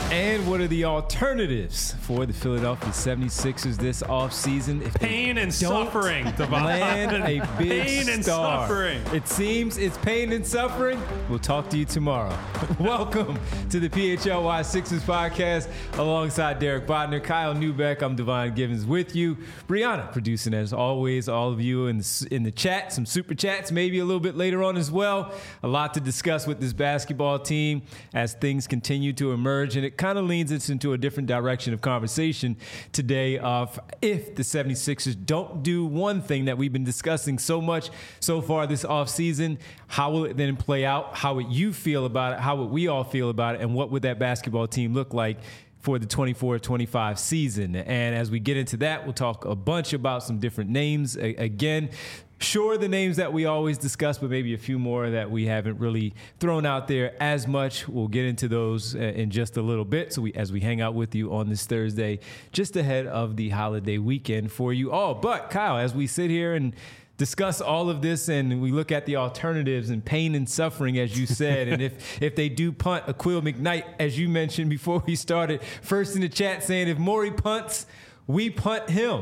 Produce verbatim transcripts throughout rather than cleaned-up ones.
And what are the alternatives for the Philadelphia seventy-sixers this offseason? If pain and suffering, Devon. Land a big pain and star. suffering. It seems it's pain and suffering. We'll talk to you tomorrow. Welcome to the P H L Y Sixers podcast alongside Derek Bodner, Kyle Newbeck. I'm Devon Givens with you. Brianna producing as always. All of you in the, in the chat, some super chats maybe a little bit later on as well. A lot to discuss with this basketball team as things continue to emerge, and it kind of leans us into a different direction of conversation today of if the seventy-sixers don't do one thing that we've been discussing so much so far this offseason, how will it then play out? How would you feel about it? How would we all feel about it? And what would that basketball team look like for the twenty-four twenty-five season? And as we get into that, we'll talk a bunch about some different names. A- again, Sure, the names that we always discuss, but maybe a few more that we haven't really thrown out there as much. We'll get into those in just a little bit. So we, as we hang out with you on this Thursday, just ahead of the holiday weekend for you all. But Kyle, as we sit here and discuss all of this and we look at the alternatives and pain and suffering, as you said, and if if they do punt Akil McKnight, as you mentioned before we started, first in the chat saying if Morey punts, we punt him.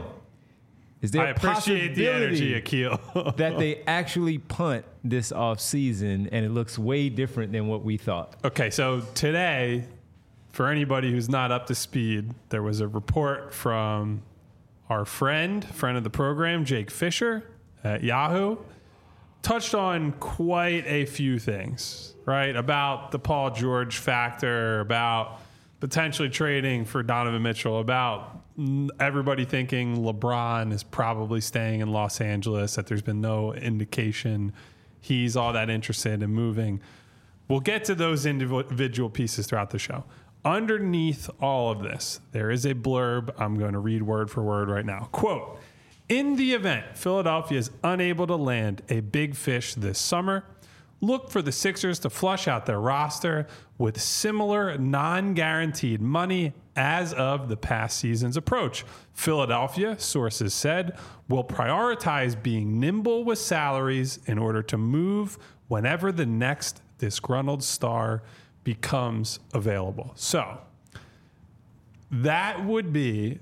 Is there I appreciate the energy, Akil. that they actually punt this offseason and it looks way different than what we thought? Okay, so today, for anybody who's not up to speed, there was a report from our friend, friend of the program, Jake Fisher at Yahoo, touched on quite a few things, right? About the Paul George factor, about potentially trading for Donovan Mitchell, about everybody thinking LeBron is probably staying in Los Angeles, that there's been no indication he's all that interested in moving. We'll get to those individual pieces throughout the show. Underneath all of this, there is a blurb I'm going to read word for word right now. Quote, in the event Philadelphia is unable to land a big fish this summer, look for the Sixers to flush out their roster with similar non-guaranteed money as of the past season's approach. Philadelphia, sources said, will prioritize being nimble with salaries in order to move whenever the next disgruntled star becomes available. So that would be,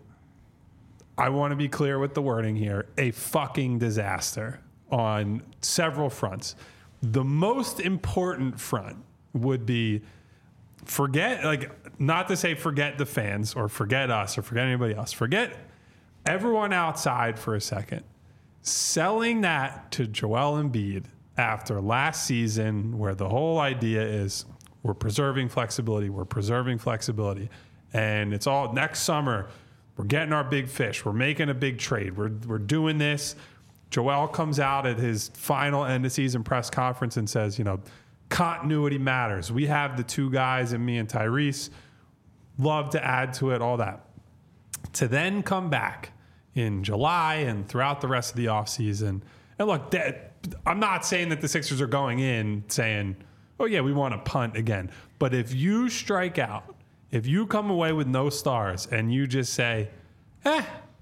I want to be clear with the wording here, a fucking disaster on several fronts. The most important front would be forget, like, not to say forget the fans or forget us or forget anybody else. Forget everyone outside for a second. Selling that to Joel Embiid after last season, where the whole idea is we're preserving flexibility, we're preserving flexibility, and it's all next summer, we're getting our big fish, we're making a big trade, we're we're doing this. Joel comes out at his final end of season press conference and says, you know, continuity matters. We have the two guys and me and Tyrese. Love to add to it, all that. To then come back in July and throughout the rest of the offseason. And look, that, I'm not saying that the Sixers are going in saying, oh, yeah, we want to punt again. But if you strike out, if you come away with no stars and you just say, eh,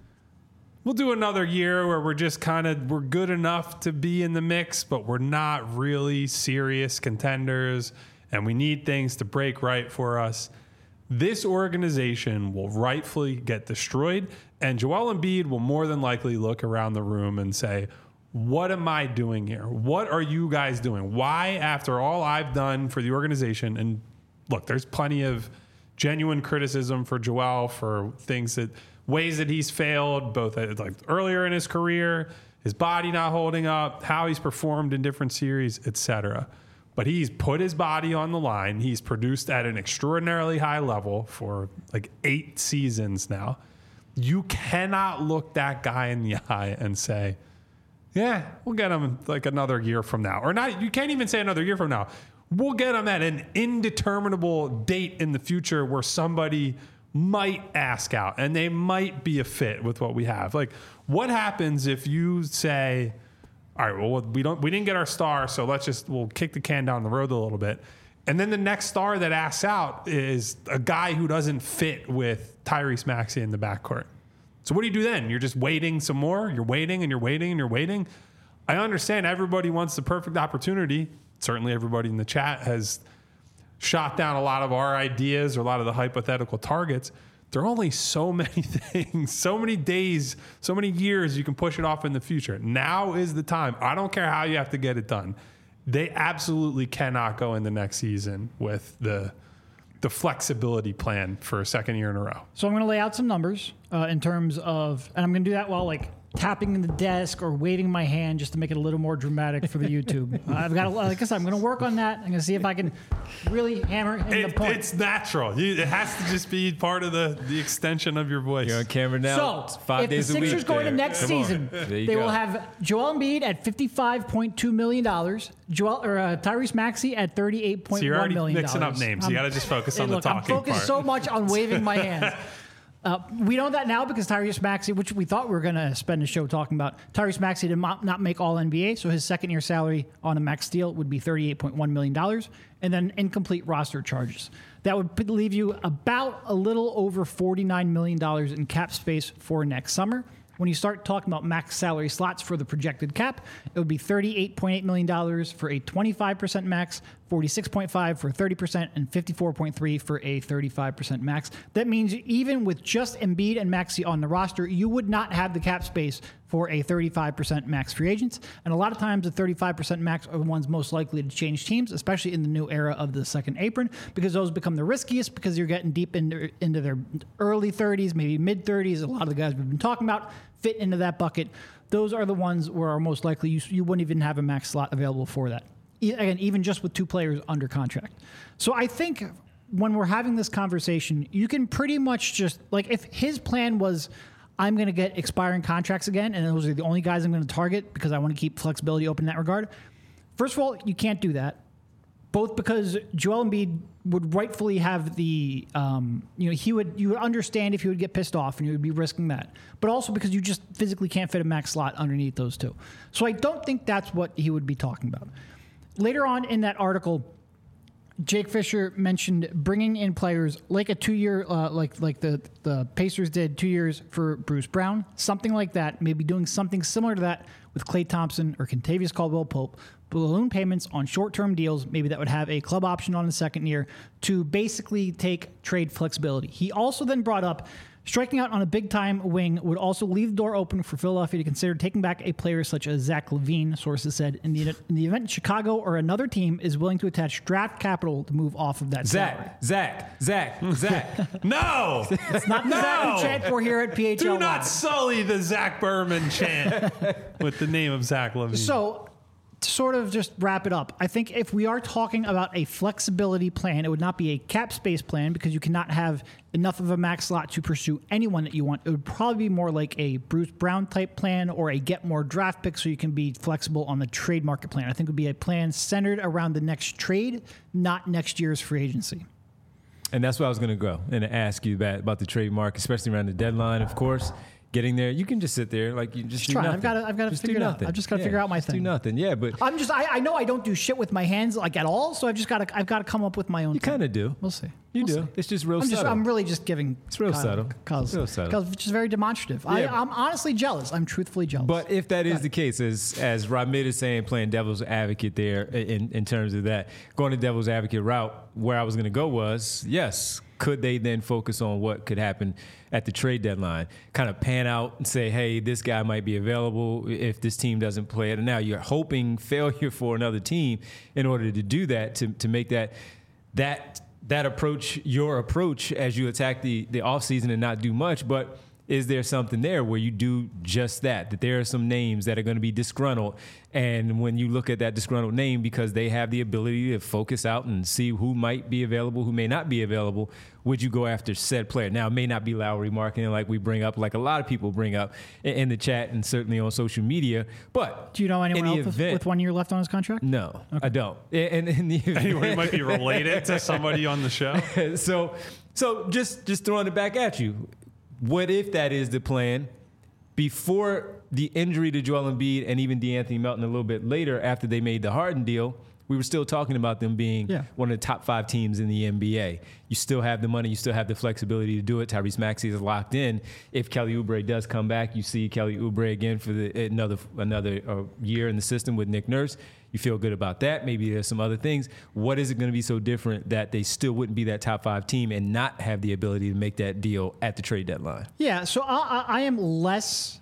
we'll do another year where we're just kind of, we're good enough to be in the mix, but we're not really serious contenders and we need things to break right for us. This organization will rightfully get destroyed, and Joel Embiid will more than likely look around the room and say, what am I doing here? What are you guys doing? Why, after all I've done for the organization, and look, there's plenty of genuine criticism for Joel for things that, ways that he's failed, both at, like earlier in his career, his body not holding up, how he's performed in different series, et cetera. But he's put his body on the line. He's produced at an extraordinarily high level for like eight seasons now. You cannot look that guy in the eye and say, yeah, we'll get him like another year from now. Or not, you can't even say another year from now. We'll get him at an indeterminable date in the future where somebody might ask out and they might be a fit with what we have. Like, what happens if you say, all right, well, we don't, we didn't get our star, so let's just, we'll kick the can down the road a little bit. And then the next star that asks out is a guy who doesn't fit with Tyrese Maxey in the backcourt. So what do you do then? You're just waiting some more? You're waiting and you're waiting and you're waiting? I understand everybody wants the perfect opportunity. Certainly everybody in the chat has shot down a lot of our ideas or a lot of the hypothetical targets. There are only so many things, so many days, so many years you can push it off in the future. Now is the time. I don't care how you have to get it done. They absolutely cannot go in the next season with the the flexibility plan for a second year in a row. So I'm going to lay out some numbers uh, in terms of, and I'm going to do that while like tapping in the desk or waving my hand just to make it a little more dramatic for the YouTube. uh, I've got, to, like I said, I'm going to work on that. I'm going to see if I can really hammer in It, the point. it's natural. You, it has to just be part of the, the extension of your voice. You're on camera now. So, It's five if days the a week. Sixers go into there. next Come on. season, There you they go. will have Joel Embiid at fifty-five point two million dollars, Joel or uh, Tyrese Maxey at thirty-eight point So you're one already million mixing dollars. up names. You got to just focus on Hey, look, the I'm talking focused part. so much on waving my hands. Uh, we know that now because Tyrese Maxey, which we thought we were going to spend a show talking about, Tyrese Maxey did not, not make all N B A, so his second year salary on a max deal would be thirty-eight point one million dollars, and then incomplete roster charges. That would leave you about a little over forty-nine million dollars in cap space for next summer. When you start talking about max salary slots for the projected cap, it would be thirty-eight point eight million dollars for a twenty-five percent max, forty-six point five for thirty percent, and fifty-four point three for a thirty-five percent max. That means even with just Embiid and Maxey on the roster, you would not have the cap space for a thirty-five percent max free agents. And a lot of times the thirty-five percent max are the ones most likely to change teams, especially in the new era of the second apron, because those become the riskiest because you're getting deep into, into their early thirties, maybe mid thirties. A lot of the guys we've been talking about fit into that bucket. Those are the ones where are most likely you, you wouldn't even have a max slot available for that. E- again, even just with two players under contract. So I think when we're having this conversation, you can pretty much just, like, if his plan was, I'm going to get expiring contracts again, and those are the only guys I'm going to target because I want to keep flexibility open in that regard. First of all, you can't do that. Both because Joel Embiid would rightfully have the, um, you know, he would, you would understand if he would get pissed off and you would be risking that. But also because you just physically can't fit a max slot underneath those two. So I don't think that's what he would be talking about. Later on in that article, Jake Fisher mentioned bringing in players like a two-year, uh, like like the, the Pacers did two years for Bruce Brown, something like that, maybe doing something similar to that with Klay Thompson or Kentavious Caldwell-Pope, balloon payments on short-term deals, maybe that would have a club option on the second year to basically take trade flexibility. He also then brought up striking out on a big-time wing would also leave the door open for Philadelphia to consider taking back a player such as Zach LaVine, sources said, in the, in the event Chicago or another team is willing to attach draft capital to move off of that salary. Zach, Zach, Zach, Zach. No! It's not the No! Zach we chant for here at P H L. Do not sully the Zach Berman chant with the name of Zach LaVine. So, to sort of just wrap it up, I think if we are talking about a flexibility plan, it would not be a cap space plan because you cannot have enough of a max slot to pursue anyone that you want. It would probably be more like a Bruce Brown type plan or a get more draft picks so you can be flexible on the trade market plan. I think it would be a plan centered around the next trade, not next year's free agency. And that's what I was going to go and ask you about, about the trade market, especially around the deadline, of course. Getting there, you can just sit there, like you just, Just do try. nothing. I've gotta- I've gotta Just figure do it out. nothing. I've just gotta Yeah, figure out my just thing. Do nothing, yeah. But I'm just, I, I know I don't do shit with my hands like at all, so I've just got to, I've got to come up with my own you thing. kind of do. We'll see. You We'll do. see. It's just real I'm just, subtle. I'm really just giving. It's real subtle. Cause, It's real subtle. Cause, which is very demonstrative. I, Yeah. I'm honestly jealous. I'm truthfully jealous. But if that is the case, as as Ramid is saying, playing devil's advocate there in, in terms of that, going the devil's advocate route, where I was going to go was, yes, could they then focus on what could happen at the trade deadline, kind of pan out and say, hey, this guy might be available if this team doesn't play it. And now you're hoping failure for another team in order to do that, to, to make that that that approach your approach as you attack the, the offseason and not do much. But is there something there where you do just that, that there are some names that are going to be disgruntled? And when you look at that disgruntled name, because they have the ability to focus out and see who might be available, who may not be available, would you go after said player? Now, it may not be Lowry marketing like we bring up, like a lot of people bring up in, in the chat and certainly on social media. But do you know anyone in the else with, event- with one year left on his contract? No, I don't. And in the event- Anyone might be related to somebody on the show. so, so just just throwing it back at you. What if that is the plan? Before the injury to Joel Embiid and even DeAnthony Melton a little bit later after they made the Harden deal, we were still talking about them being Yeah. one of the top five teams in the N B A. You still have the money. You still have the flexibility to do it. Tyrese Maxey is locked in. If Kelly Oubre does come back, you see Kelly Oubre again for the, another another uh, year in the system with Nick Nurse. You feel good about that. Maybe there's some other things. What is it going to be so different that they still wouldn't be that top five team and not have the ability to make that deal at the trade deadline? Yeah, so I, I, I am less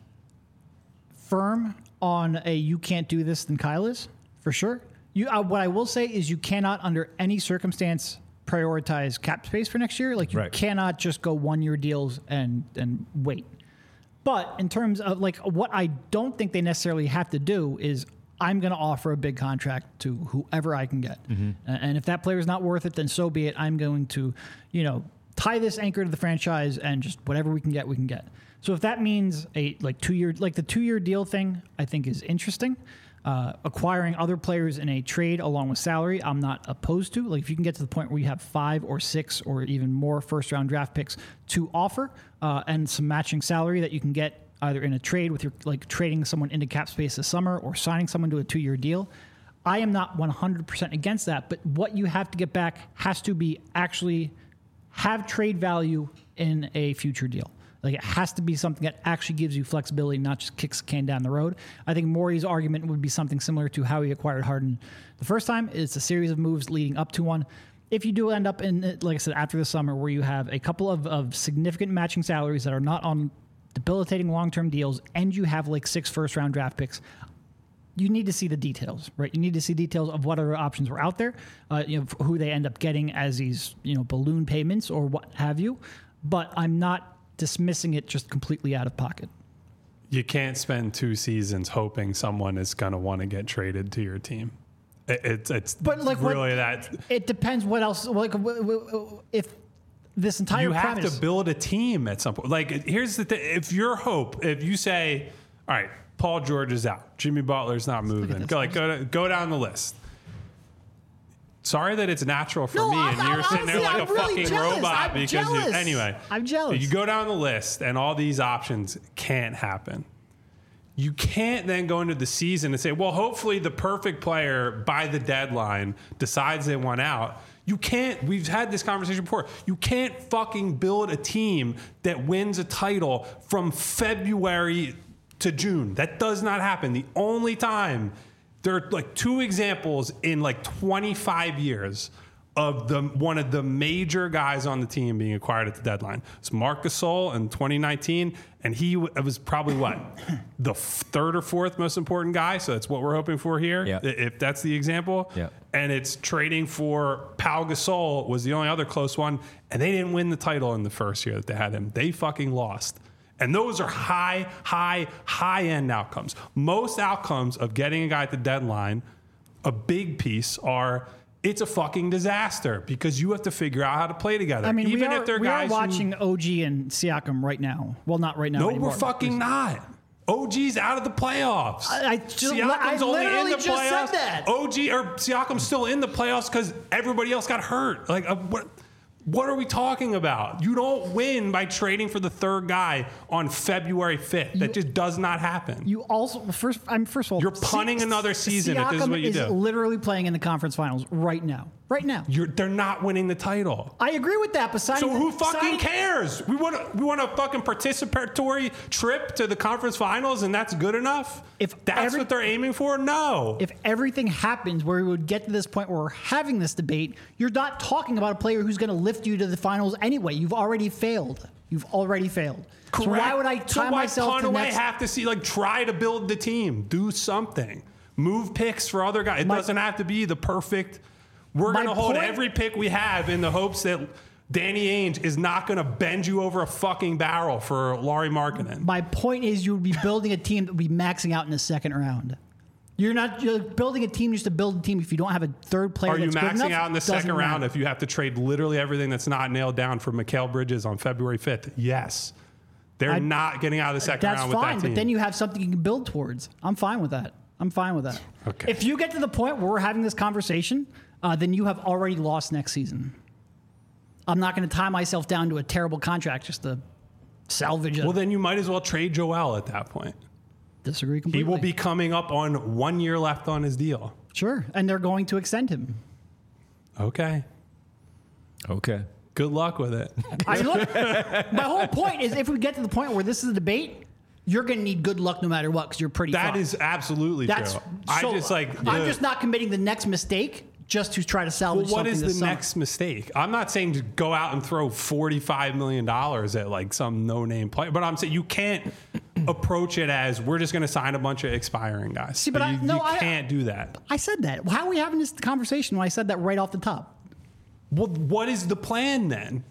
firm on a you can't do this than Kyle is, for sure. You, uh, what I will say is you cannot, under any circumstance, prioritize cap space for next year. Like, you Right. cannot just go one-year deals and and wait. But in terms of, like, what I don't think they necessarily have to do is I'm going to offer a big contract to whoever I can get. Mm-hmm. And if that player is not worth it, then so be it. I'm going to, you know, tie this anchor to the franchise and just whatever we can get, we can get. So if that means a like two year, like the two year deal thing, I think is interesting. Uh, acquiring other players in a trade along with salary, I'm not opposed to. Like, if you can get to the point where you have five or six or even more first round draft picks to offer, uh, and some matching salary that you can get either in a trade with your, like, trading someone into cap space this summer or signing someone to a two year deal, I am not one hundred percent against that. But what you have to get back has to be actually have trade value in a future deal. Like, it has to be something that actually gives you flexibility, not just kicks the can down the road. I think Morey's argument would be something similar to how he acquired Harden the first time. It's a series of moves leading up to one. If you do end up in, like I said, after the summer, where you have a couple of, of significant matching salaries that are not on debilitating long-term deals, and you have like six first-round draft picks, you need to see the details, right? You need to see details of what other options were out there, uh, you know, who they end up getting as these, you know, balloon payments or what have you. But I'm not dismissing it just completely out of pocket. You can't spend two seasons hoping someone is going to want to get traded to your team. It, it's it's But like, really what, that. It depends what else. Like, if this entire You have premise, to build a team at some point. Like, here's the thing: if your hope, if you say, "All right, Paul George is out, Jimmy Butler's not moving," go like go to, go down the list. Sorry that it's natural for No, me, I'm- and you're I'm- sitting there honestly, like I'm a really fucking jealous. robot I'm because jealous. you. Anyway, I'm jealous. You go down the list, and all these options can't happen. You can't then go into the season and say, well, hopefully the perfect player by the deadline decides they want out. You can't, we've had this conversation before. You can't fucking build a team that wins a title from February to June. That does not happen. The only time, there are like two examples in like twenty-five years of the one of the major guys on the team being acquired at the deadline. It's Marc Gasol in twenty nineteen, and he w- was probably what the third or fourth most important guy. So that's what we're hoping for here. Yeah. If that's the example. Yeah. And it's trading for Pau Gasol was the only other close one, and they didn't win the title in the first year that they had him. They fucking lost. And those are high, high, high end outcomes. Most outcomes of getting a guy at the deadline, a big piece are. It's a fucking disaster because you have to figure out how to play together. I mean, even we are, if they're we are guys watching who, O G and Siakam right now. Well, not right now. no, anymore. we're fucking not. O G's out of the playoffs. I- I just- Siakam's I only in literally the just said playoffs. that. O G or Siakam's still in the playoffs because everybody else got hurt. Like, uh, what? What are we talking about? You don't win by trading for the third guy on February fifth. That just does not happen. You also first. I'm first of all. You're punting Si- another season if Siakam this is what you is do. literally playing in the conference finals right now. Right now. You're, they're not winning the title. I agree with that. Besides, So who fucking cares? We want a, we want a fucking participatory trip to the conference finals, and that's good enough. If that's every- what they're aiming for, no. If everything happens where we would get to this point where we're having this debate, you're not talking about a player who's going to lift you to the finals anyway. You've already failed. You've already failed. Correct. So why would I so tie why myself punt to away next? have to see like try to build the team, do something, move picks for other guys. It My- doesn't have to be the perfect. We're My going to hold point- every pick we have in the hopes that Danny Ainge is not going to bend you over a fucking barrel for Lauri Markkanen. My point is, you would be building a team that would be maxing out in the second round. You're not you're building a team just to build a team. If you don't have a third player, Are you that's good maxing enough, out in the doesn't second round matter. if you have to trade literally everything that's not nailed down for Mikal Bridges on February fifth? Yes. They're I- not getting out of the second That's round with fine, that team. but then you have something you can build towards. I'm fine with that. I'm fine with that. Okay. If you get to the point where we're having this conversation, uh, then you have already lost next season. I'm not going to tie myself down to a terrible contract just to salvage it. well, then you might as well trade Joel at that point. Disagree He completely. will be coming up on one year left on his deal. Sure. And they're going to extend him. Okay. Okay. Good luck with it. I look, my whole point is if we get to the point where this is a debate, you're going to need good luck no matter what because you're pretty That fucked. is absolutely That's true. so, I just like. I'm the- just not committing the next mistake just to try to Well, salvage what something is the this summer. next mistake? I'm not saying to go out and throw forty-five million dollars at like some no-name player, but I'm saying you can't approach it as we're just going to sign a bunch of expiring guys. See, but I- you, no, you I- can't do that. I said that. How are we having this conversation when I said that right off the top? Well, what is the plan then?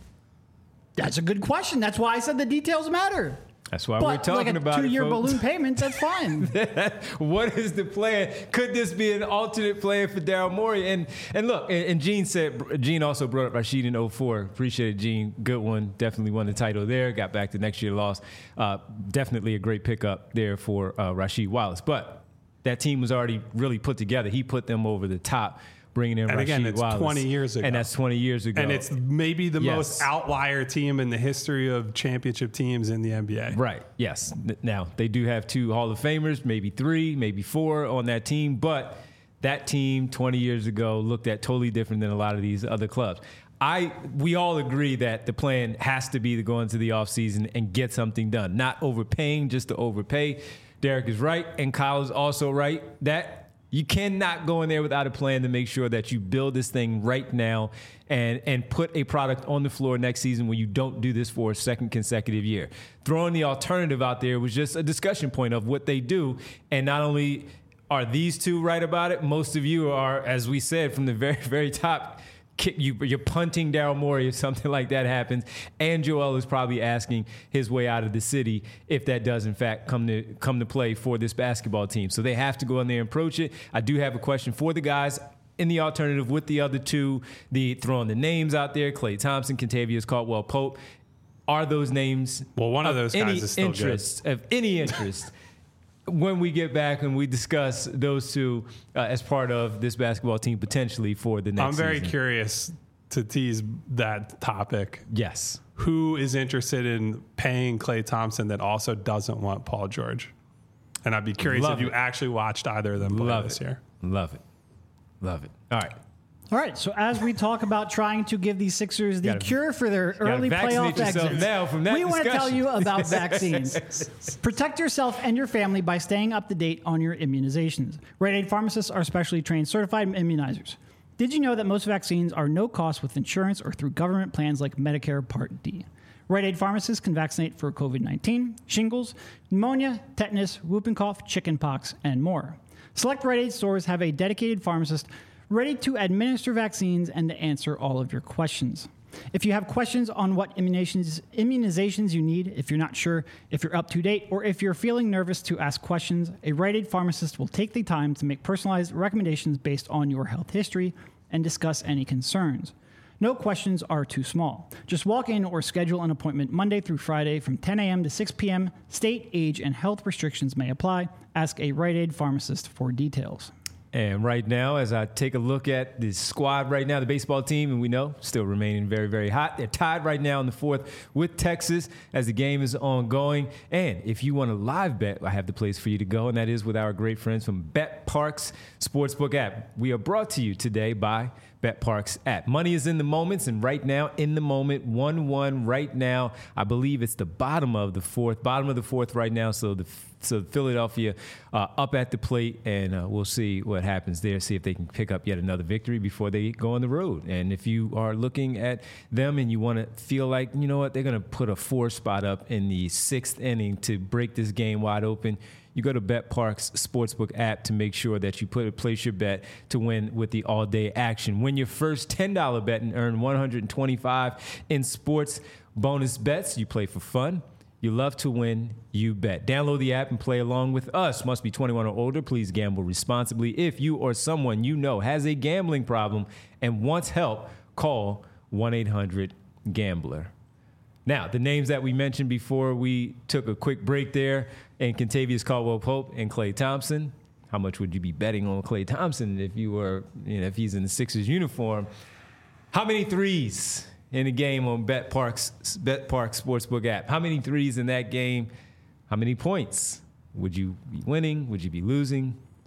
That's a good question. That's why I said the details matter. That's why But we're talking like a about two-year it, folks. balloon payment, that's fine. What is the plan? Could this be an alternate plan for Daryl Morey? And and look, and, and Gene said, Gene also brought up Rashid in oh four. Appreciate it, Gene. Good one. Definitely won the title there. Got back to next year, lost. Uh, definitely a great pickup there for uh, Rasheed Wallace. But that team was already really put together. He put them over the top, bringing in And Rasheed again, it's Wallace. twenty years ago. And that's twenty years ago. And it's maybe the Yes. most outlier team in the history of championship teams in the N B A. Right. Yes. N- Now they do have two Hall of Famers, maybe three, maybe four on that team, but that team twenty years ago looked at totally different than a lot of these other clubs. I we all agree that the plan has to be to go into the offseason and get something done, not overpaying just to overpay. Derek is right, and Kyle is also right that you cannot go in there without a plan to make sure that you build this thing right now and, and put a product on the floor next season when you don't do this for a second consecutive year. Throwing the alternative out there was just a discussion point of what they do. And not only are these two right about it, most of you are, as we said from the very, very top, kick you, you're punting Daryl Morey if something like that happens. And Joel is probably asking his way out of the city if that does, in fact, come to come to play for this basketball team. So they have to go in there and approach it. I do have a question for the guys in the alternative with the other two, the throwing the names out there, Klay Thompson, Kentavious Caldwell-Pope. Are those names Well, one of those guys any is still good. interest, of any interest? When we get back and we discuss those two uh, as part of this basketball team potentially for the next I'm very season. curious to tease that topic. Yes. Who is interested in paying Klay Thompson that also doesn't want Paul George? And I'd be curious Love if you it. actually watched either of them play Love this it. year. Love it. Love it. All right. All right, so as we talk about trying to give these Sixers the Gotta- cure for their gotta early vaccinate playoff yourself exits, now from that we want to tell discussion. you about vaccines. Protect yourself and your family by staying up to date on your immunizations. Rite Aid pharmacists are specially trained certified immunizers. Did you know that most vaccines are no cost with insurance or through government plans like Medicare Part D? Rite Aid pharmacists can vaccinate for COVID nineteen, shingles, pneumonia, tetanus, whooping cough, chickenpox, and more. Select Rite Aid stores have a dedicated pharmacist ready to administer vaccines and to answer all of your questions. If you have questions on what immunizations, immunizations you need, if you're not sure if you're up to date, or if you're feeling nervous to ask questions, a Rite Aid pharmacist will take the time to make personalized recommendations based on your health history and discuss any concerns. No questions are too small. Just walk in or schedule an appointment Monday through Friday from ten a.m. to six p.m. State, age, and health restrictions may apply. Ask a Rite Aid pharmacist for details. And right now, as I take a look at the squad right now, the baseball team, and we know, still remaining very, very hot. They're tied right now in the fourth with Texas as the game is ongoing. And if you want a live bet, I have the place for you to go, and that is with our great friends from BetParx Sportsbook app. We are brought to you today by BetParx app. Money is in the moments, and right now, in the moment, one one right now. I believe it's the bottom of the fourth, bottom of the fourth right now. So the so Philadelphia uh, up at the plate, and uh, we'll see what happens there. See if they can pick up yet another victory before they go on the road. And if you are looking at them and you want to feel like, you know what, they're going to put a four spot up in the sixth inning to break this game wide open, you go to BetParx Sportsbook app to make sure that you put place your bet to win with the all-day action. Win your first ten dollars bet and earn one hundred twenty-five dollars in sports bonus bets. You play for fun. You love to win, you bet. Download the app and play along with us. Must be twenty-one or older. Please gamble responsibly. If you or someone you know has a gambling problem and wants help, call one eight hundred gambler. Now, the names that we mentioned before we took a quick break there, and Kentavious Caldwell-Pope and Klay Thompson. How much would you be betting on Klay Thompson if you were, you know, if he's in the Sixers uniform? How many threes in a game on BetParx BetParx Sportsbook app? How many threes in that game? How many points? Would you be winning? Would you be losing?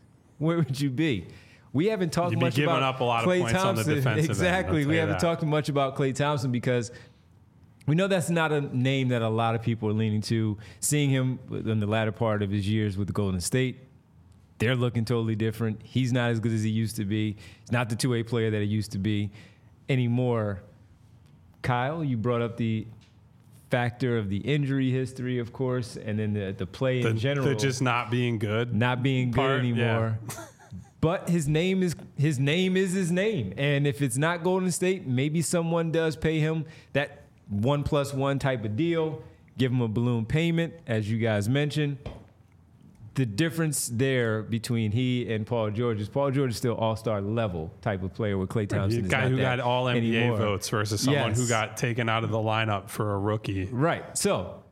where would you be? We haven't talked You'd be much giving about up a lot of Klay points on the Thompson. defensive end, Exactly. I'll We tell you haven't that. talked much about Klay Thompson because we know that's not a name that a lot of people are leaning to. Seeing him in the latter part of his years with the Golden State, they're looking totally different. He's not as good as he used to be. He's not the two-way player that he used to be anymore. Kyle, you brought up the factor of the injury history, of course, and then the, the play The, in general. the just not being good. not being good part, anymore. But his name is his name is his name. And if it's not Golden State, maybe someone does pay him that one plus one type of deal, give him a balloon payment, as you guys mentioned. The difference there between he and Paul George is Paul George is still all-star level type of player with Klay Thompson. The is guy not who that got all N B A anymore. votes versus someone Yes. who got taken out of the lineup for a rookie. Right. So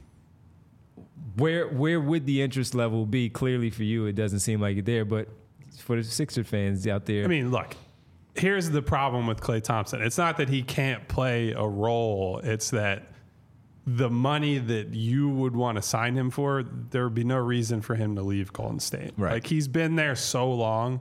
where where would the interest level be? Clearly for you, it doesn't seem like it there, but for the Sixer fans out there. I mean, look, here's the problem with Klay Thompson. It's not that he can't play a role. It's that the money that you would want to sign him for, there would be no reason for him to leave Golden State. Right. Like, he's been there so long.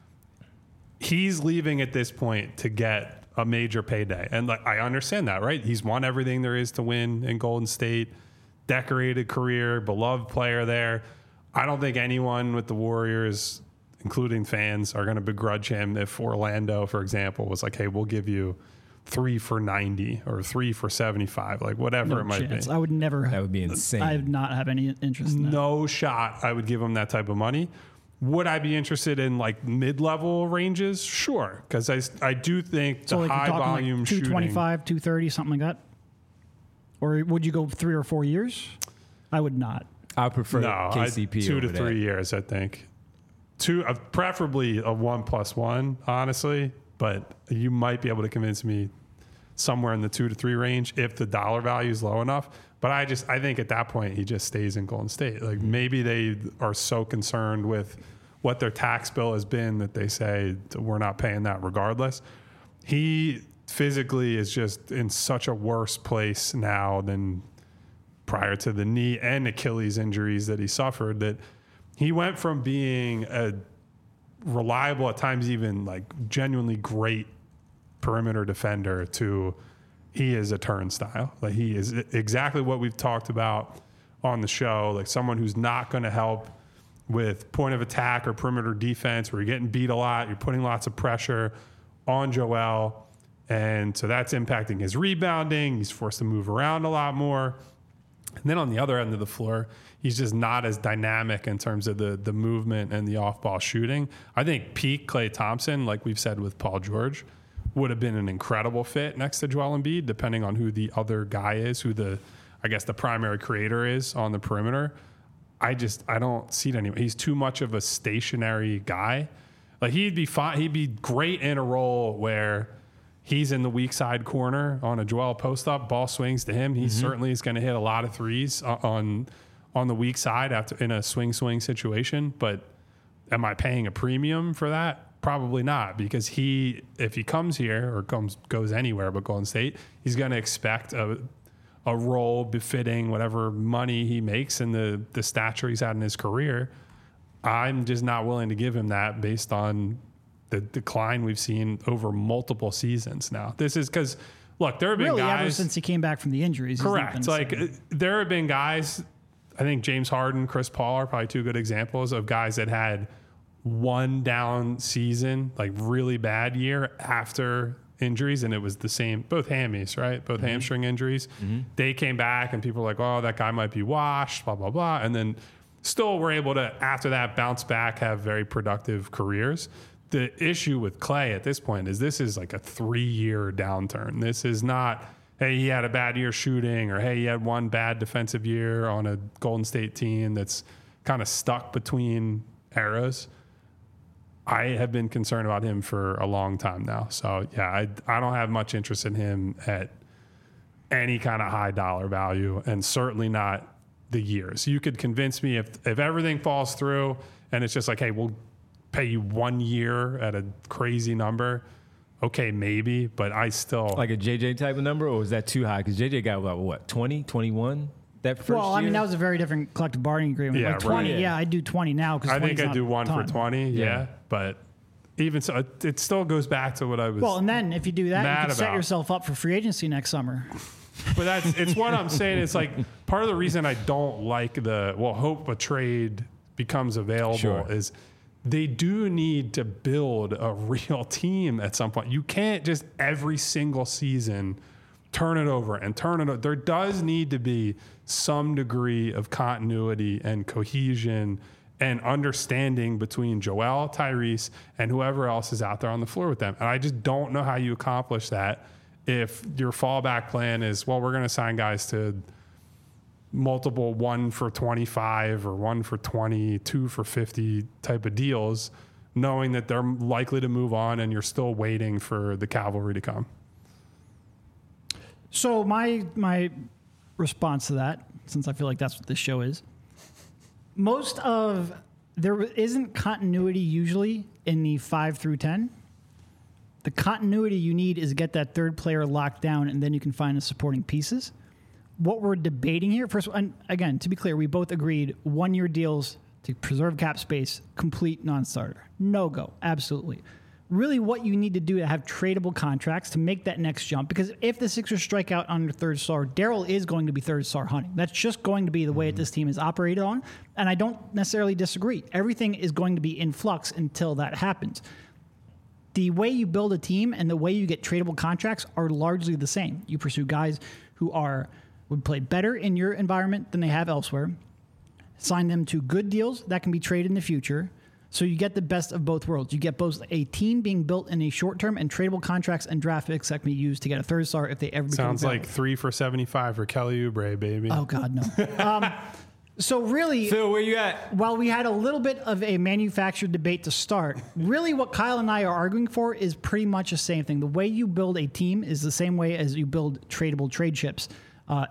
He's leaving at this point to get a major payday. And like, I understand that, right? He's won everything there is to win in Golden State, decorated career, beloved player there. I don't think anyone with the Warriors, including fans, are going to begrudge him if Orlando, for example, was like, hey, we'll give you three for ninety or three for seventy-five, like whatever No it might chance. be. I would never. that would be insane. I would not have any interest in that. No shot I would give him that type of money. Would I be interested in like mid-level ranges? Sure, because I, I do think So the like you're high talking volume like shooting. two twenty-five, two thirty, something like that? Or would you go three or four years? I would not. I prefer No, K I, C P two to over three that. years, I think. Two, uh, preferably a one plus one, honestly. But you might be able to convince me somewhere in the two to three range if the dollar value is low enough. But I just, I think at that point he just stays in Golden State. Like maybe they are so concerned with what their tax bill has been that they say we're not paying that regardless. He physically is just in such a worse place now than prior to the knee and Achilles injuries that he suffered, that he went from being a reliable, at times even like genuinely great perimeter defender to he is a turnstile. Like he is exactly what we've talked about on the show, like someone who's not going to help with point of attack or perimeter defense where you're getting beat a lot, you're putting lots of pressure on Joel. And so that's impacting his rebounding. He's forced to move around a lot more. And then on the other end of the floor, he's just not as dynamic in terms of the the movement and the off-ball shooting. I think peak Klay Thompson, like we've said with Paul George, would have been an incredible fit next to Joel Embiid, depending on who the other guy is, who the, I guess, the primary creator is on the perimeter. I just, I don't see it anymore. He's too much of a stationary guy. Like he'd be fine. He'd be great in a role where he's in the weak side corner on a Joel post up, ball swings to him. He mm-hmm. certainly is going to hit a lot of threes on on the weak side after in a swing swing situation. But am I paying a premium for that? Probably not, because he, if he comes here or comes goes anywhere but Golden State, he's going to expect a a role befitting whatever money he makes and the the stature he's had in his career. I'm just not willing to give him that based on the decline we've seen over multiple seasons now. This is because, look, there have been really, guys ever since he came back from the injuries. Correct. Like uh, there have been guys, I think James Harden, Chris Paul are probably two good examples of guys that had one down season, like really bad year after injuries, and it was the same, both hammies, right? Both mm-hmm. hamstring injuries. Mm-hmm. They came back and people were like, oh, that guy might be washed, blah, blah, blah. And then still were able to, after that, bounce back, have very productive careers. The issue with Klay at this point is this is like a three-year downturn. This is not, hey, he had a bad year shooting, or hey, he had one bad defensive year on a Golden State team that's kind of stuck between eras. I have been concerned about him for a long time now. So, yeah, I, I don't have much interest in him at any kind of high dollar value, and certainly not the years. You could convince me if if everything falls through and it's just like, hey, we'll pay you one year at a crazy number. Okay, maybe, but I still... Like a J J type of number, or is that too high? Because J J got about, what, twenty, twenty-one that first Well, I mean, year? that was a very different collective bargaining agreement. Yeah, like twenty, right. yeah, I do twenty now because I think I do one for twenty. Yeah. Yeah. But even so, it, it still goes back to what I was. Well, and then if you do that, you mad can set about. yourself up for free agency next summer. But that's it's what I'm saying. It's like part of the reason I don't like the well, hope a trade becomes available Sure. is they do need to build a real team at some point. You can't just every single season turn it over and turn it over. There does need to be some degree of continuity and cohesion and understanding between Joel, Tyrese, and whoever else is out there on the floor with them. And I just don't know how you accomplish that if your fallback plan is, well, we're going to sign guys to multiple one for twenty-five or one for twenty, two for fifty type of deals, knowing that they're likely to move on and you're still waiting for the cavalry to come. So my my response to that, since I feel like that's what this show is, most of there isn't continuity usually in the five through ten. The continuity you need is get that third player locked down, and then you can find the supporting pieces. What we're debating here, first, and again, to be clear, we both agreed one-year deals to preserve cap space, complete non-starter. No go, absolutely. Really what you need to do to have tradable contracts to make that next jump, because if the Sixers strike out on their third star, Daryl is going to be third star hunting. That's just going to be the way that this team is operated on, and I don't necessarily disagree. Everything is going to be in flux until that happens. The way you build a team and the way you get tradable contracts are largely the same. You pursue guys who are would play better in your environment than they have elsewhere, sign them to good deals that can be traded in the future, so you get the best of both worlds. You get both a team being built in a short term and tradable contracts and draft picks that can be used to get a third star if they ever become Sounds available. like three for seventy-five for Kelly Oubre, baby. Oh, God, no. um, so really, Phil, where you at? while we had a little bit of a manufactured debate to start, really what Kyle and I are arguing for is pretty much the same thing. The way you build a team is the same way as you build tradable trade chips. Uh,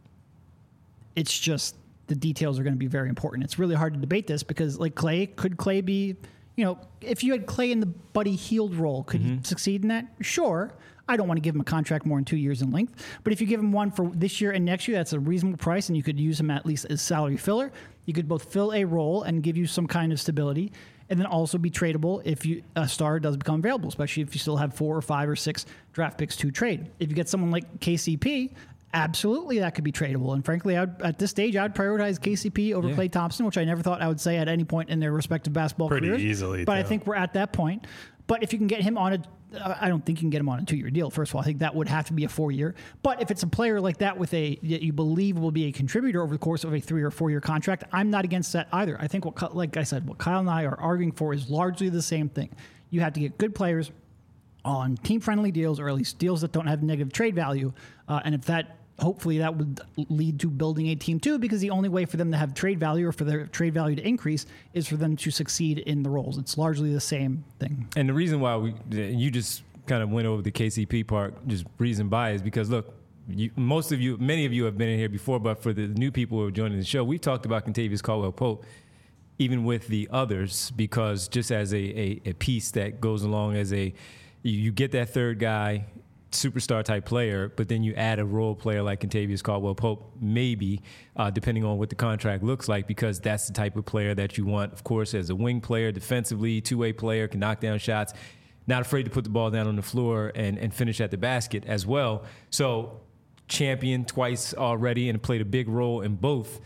it's just the details are going to be very important. It's really hard to debate this because, like Clay, could Clay be, you know, if you had Clay in the Buddy Hield role, could he succeed in that? Sure. I don't want to give him a contract more than two years in length. But if you give him one for this year and next year, that's a reasonable price, and you could use him at least as salary filler. You could both fill a role and give you some kind of stability, and then also be tradable if you a star does become available, especially if you still have four or five or six draft picks to trade. If you get someone like K C P, absolutely that could be tradable. And frankly, I would, at this stage, I would prioritize K C P over Yeah. Klay Thompson, which I never thought I would say at any point in their respective basketball Pretty careers. easily, But I too. think we're at that point. But if you can get him on a, I don't think you can get him on a two-year deal. First of all, I think that would have to be a four-year. But if it's a player like that with a that you believe will be a contributor over the course of a three or four-year contract, I'm not against that either. I think what, like I said, what Kyle and I are arguing for is largely the same thing. You have to get good players on team-friendly deals, or at least deals that don't have negative trade value. Uh, and if that hopefully that would lead to building a team too, because the only way for them to have trade value or for their trade value to increase is for them to succeed in the roles. It's largely the same thing. And the reason why we you just kind of went over the K C P part, just reason by, is because look, you, most of you, many of you have been in here before, but for the new people who are joining the show, we've talked about Kentavious Caldwell-Pope, even with the others, because just as a, a, a piece that goes along as a, you, you get that third guy, superstar type player, but then you add a role player like Kentavious Caldwell-Pope, maybe, uh, depending on what the contract looks like, because that's the type of player that you want, of course, as a wing player, defensively, two-way player, can knock down shots, not afraid to put the ball down on the floor and, and finish at the basket as well. So champion twice already and played a big role in both.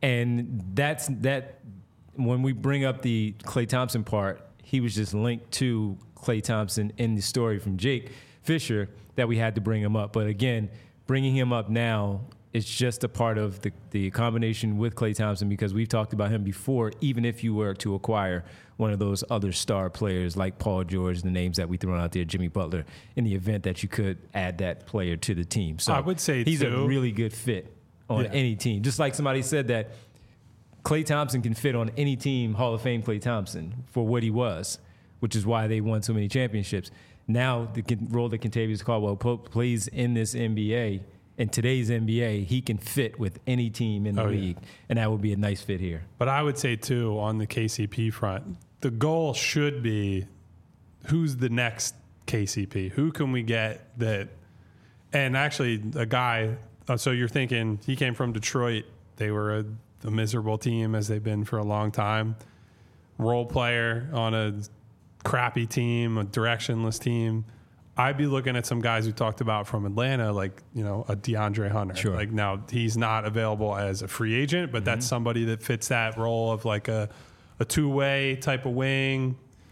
And that's that. When we bring up the Klay Thompson part, he was just linked to Klay Thompson in the story from Jake Fisher that we had to bring him up. But again, bringing him up now is just a part of the, the combination with Klay Thompson, because we've talked about him before, even if you were to acquire one of those other star players like Paul George, the names that we thrown out there, Jimmy Butler, in the event that you could add that player to the team. So I would say, he's too, a really good fit on Yeah. any team. Just like somebody said that Klay Thompson can fit on any team, Hall of Fame Klay Thompson, for what he was, which is why they won so many championships. Now, the con- role that Kentavious Caldwell-Pope plays in this N B A, in today's N B A, he can fit with any team in the Oh, yeah. league, and that would be a nice fit here. But I would say, too, on the K C P front, the goal should be who's the next K C P? Who can we get that? And actually, a guy Uh, so you're thinking he came from Detroit. They were a, a miserable team as they've been for a long time. Role player on a crappy team, a directionless team. I'd be looking at some guys we talked about from Atlanta, like, you know, a DeAndre Hunter. Sure. Like, now he's not available as a free agent, but mm-hmm. that's somebody that fits that role of like a, a two-way type of wing,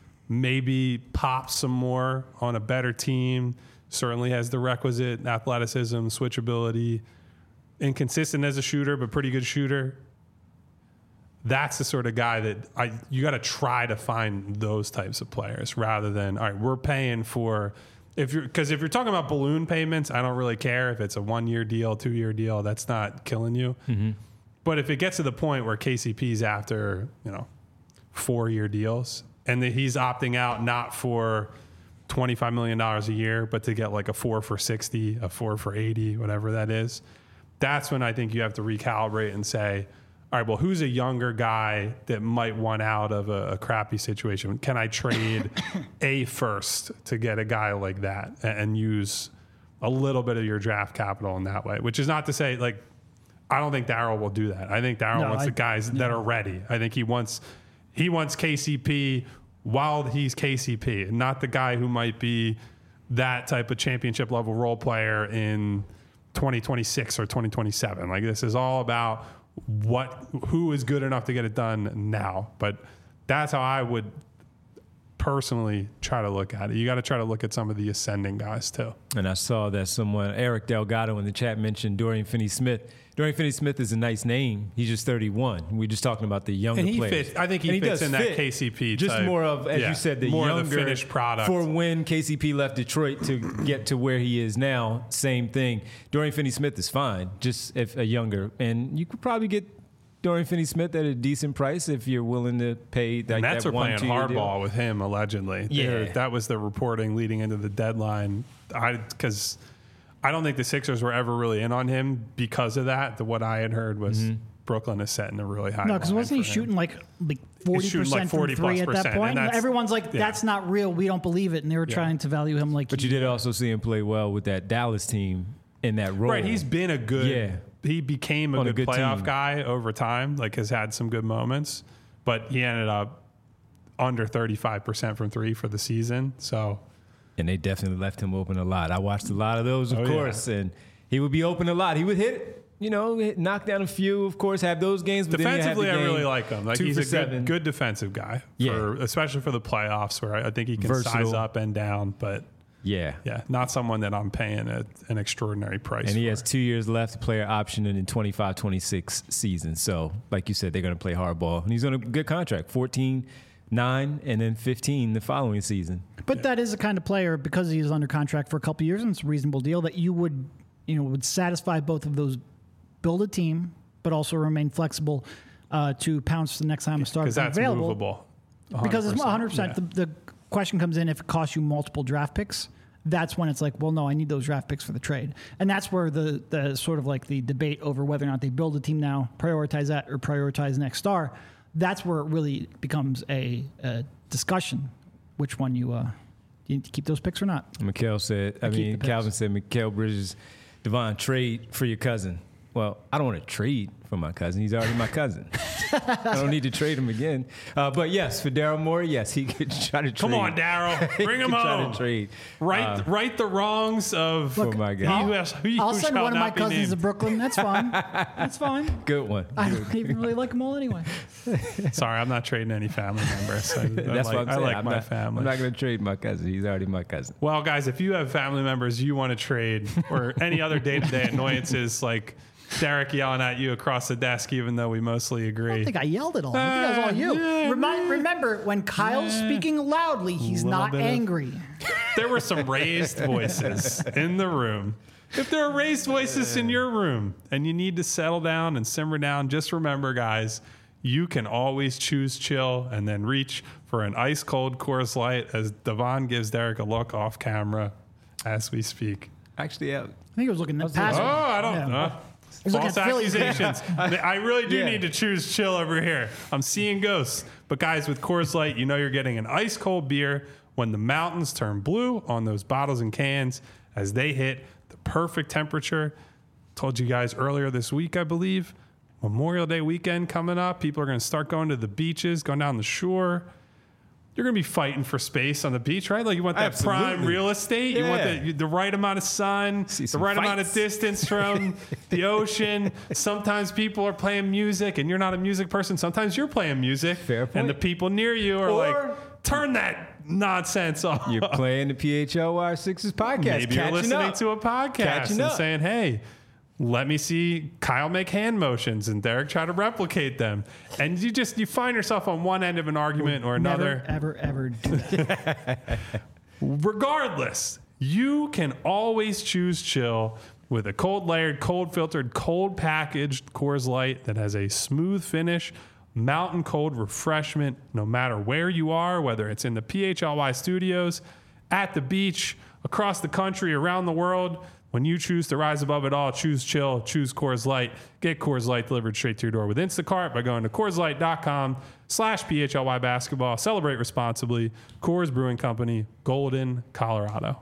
maybe pops some more on a better team, certainly has the requisite athleticism, switchability, inconsistent as a shooter, but pretty good shooter. That's the sort of guy that I you got to try to find those types of players rather than, all right, we're paying for... If you're, because if you're talking about balloon payments, I don't really care if it's a one-year deal, two-year deal. That's not killing you. Mm-hmm. But if it gets to the point where K C P's after, you know, four-year deals, and that he's opting out not for twenty-five million dollars a year, but to get like a four for sixty, a four for eighty, whatever that is, that's when I think you have to recalibrate and say, all right, well, who's a younger guy that might want out of a, a crappy situation? Can I trade a first to get a guy like that and, and use a little bit of your draft capital in that way? Which is not to say, like, I don't think Daryl will do that. I think Daryl no, wants I, the guys no. that are ready. I think he wants he wants K C P while he's K C P, not the guy who might be that type of championship level role player in twenty twenty-six or twenty twenty-seven. Like, this is all about what who is good enough to get it done now. But that's how I would personally try to look at it. You got to try to look at some of the ascending guys too. And I saw that someone, Eric Delgado in the chat, mentioned Dorian Finney-Smith. Dorian Finney-Smith is a nice name. He's just thirty-one. We're just talking about the younger and he players. Fits, I think he, he fits in fit. that K C P Just type. more of, as yeah, you said, the more younger of the finished product. For when K C P left Detroit to get to where he is now, same thing. Dorian Finney-Smith is fine, just if a younger. And you could probably get Dorian Finney-Smith at a decent price if you're willing to pay that. And that's that are one, playing hardball with him, allegedly. Yeah. There, that was the reporting leading into the deadline. I Because I don't think the Sixers were ever really in on him because of that. The, what I had heard was mm-hmm. Brooklyn is setting a really high. No, because wasn't he shooting like like forty percent like from three at that point? And everyone's like, "That's yeah. not real. We don't believe it." And they were yeah. trying to value him like. But you did also see him play well with that Dallas team in that role. Right, he's been a good. Yeah. He became a good, a good playoff team. guy over time. Like, has had some good moments, but he ended up under thirty-five percent from three for the season. So. And they definitely left him open a lot. I watched a lot of those, of oh, course, yeah. and he would be open a lot. He would hit, you know, hit, knock down a few, of course, have those games. But defensively, then I really like him. Like, he's a good, good defensive guy, yeah. for, especially for the playoffs, where I, I think he can Versatile. size up and down. But yeah, yeah, not someone that I'm paying a, an extraordinary price. And he for. has two years left, player option in the twenty-five twenty-six season. So, like you said, they're going to play hardball, and he's on a good contract, fourteen. Nine and then fifteen the following season. But yeah. that is the kind of player, because he's under contract for a couple of years and it's a reasonable deal, that you would, you know, would satisfy both of those. Build a team, but also remain flexible uh, to pounce the next time a star is available. Movable. Because it's one hundred percent. Yeah. The, the question comes in if it costs you multiple draft picks. That's when it's like, well, no, I need those draft picks for the trade. And that's where the the sort of like the debate over whether or not they build a team now, prioritize that, or prioritize next star. That's where it really becomes a, a discussion, which one you uh, you need to keep those picks or not. Mikhail said, I, I mean, Calvin said, Mikhail Bridges, Devon, trade for your cousin. Well, I don't want to trade for my cousin. He's already my cousin. I don't need to trade him again. Uh, but yes, for Daryl Morey, yes, he could try to trade. Come on, Daryl. Bring him home. Try to trade. Right, uh, right the wrongs of look, my God. I'll, has, I'll send one of my cousins named. to Brooklyn. That's fine. That's fine. Good one. I don't even really like them all anyway. Sorry, I'm not trading any family members. I, That's I like, what I'm saying. I like I'm my not, family. I'm not going to trade my cousin. He's already my cousin. Well, guys, if you have family members you want to trade or any other day-to-day annoyances like Derek yelling at you across the desk, even though we mostly agree. I don't think I yelled at all. I think that was all you. Yeah, Remind, remember, when Kyle's yeah. speaking loudly, he's not angry. Of, there were some raised voices in the room. If there are raised voices in your room and you need to settle down and simmer down, just remember, guys, you can always choose chill and then reach for an ice-cold Coors Light as Devon gives Derek a look off camera as we speak. Actually, yeah. I think he was looking at past. Oh, I don't yeah. know. False accusations. I really do yeah. need to choose chill over here. I'm seeing ghosts. But guys, with Coors Light, you know you're getting an ice cold beer when the mountains turn blue on those bottles and cans as they hit the perfect temperature. told you guys earlier this week, I believe, Memorial Day weekend coming up. People are going to start going to the beaches, going down the shore. You're going to be fighting for space on the beach, right? Like you want that Absolutely. prime real estate. Yeah. You want the, the right amount of sun, See the some right amount of fights. distance from the ocean. Sometimes people are playing music and you're not a music person. Sometimes you're playing music. Fair point. And the people near you are Or- like, turn that nonsense off. You're playing the P H L Y Sixers podcast. Maybe you're catching listening up. to a podcast Catching and up. saying, hey, let me see Kyle make hand motions and Derek try to replicate them. And you just, you find yourself on one end of an argument or another. Never, ever, ever do that. Regardless, you can always choose chill with a cold layered, cold filtered, cold packaged Coors Light that has a smooth finish, mountain cold refreshment, no matter where you are, whether it's in the P H L Y studios, at the beach, across the country, around the world. When you choose to rise above it all, choose chill, choose Coors Light. Get Coors Light delivered straight to your door with Instacart by going to CoorsLight.com slash PHLY basketball. Celebrate responsibly. Coors Brewing Company, Golden, Colorado.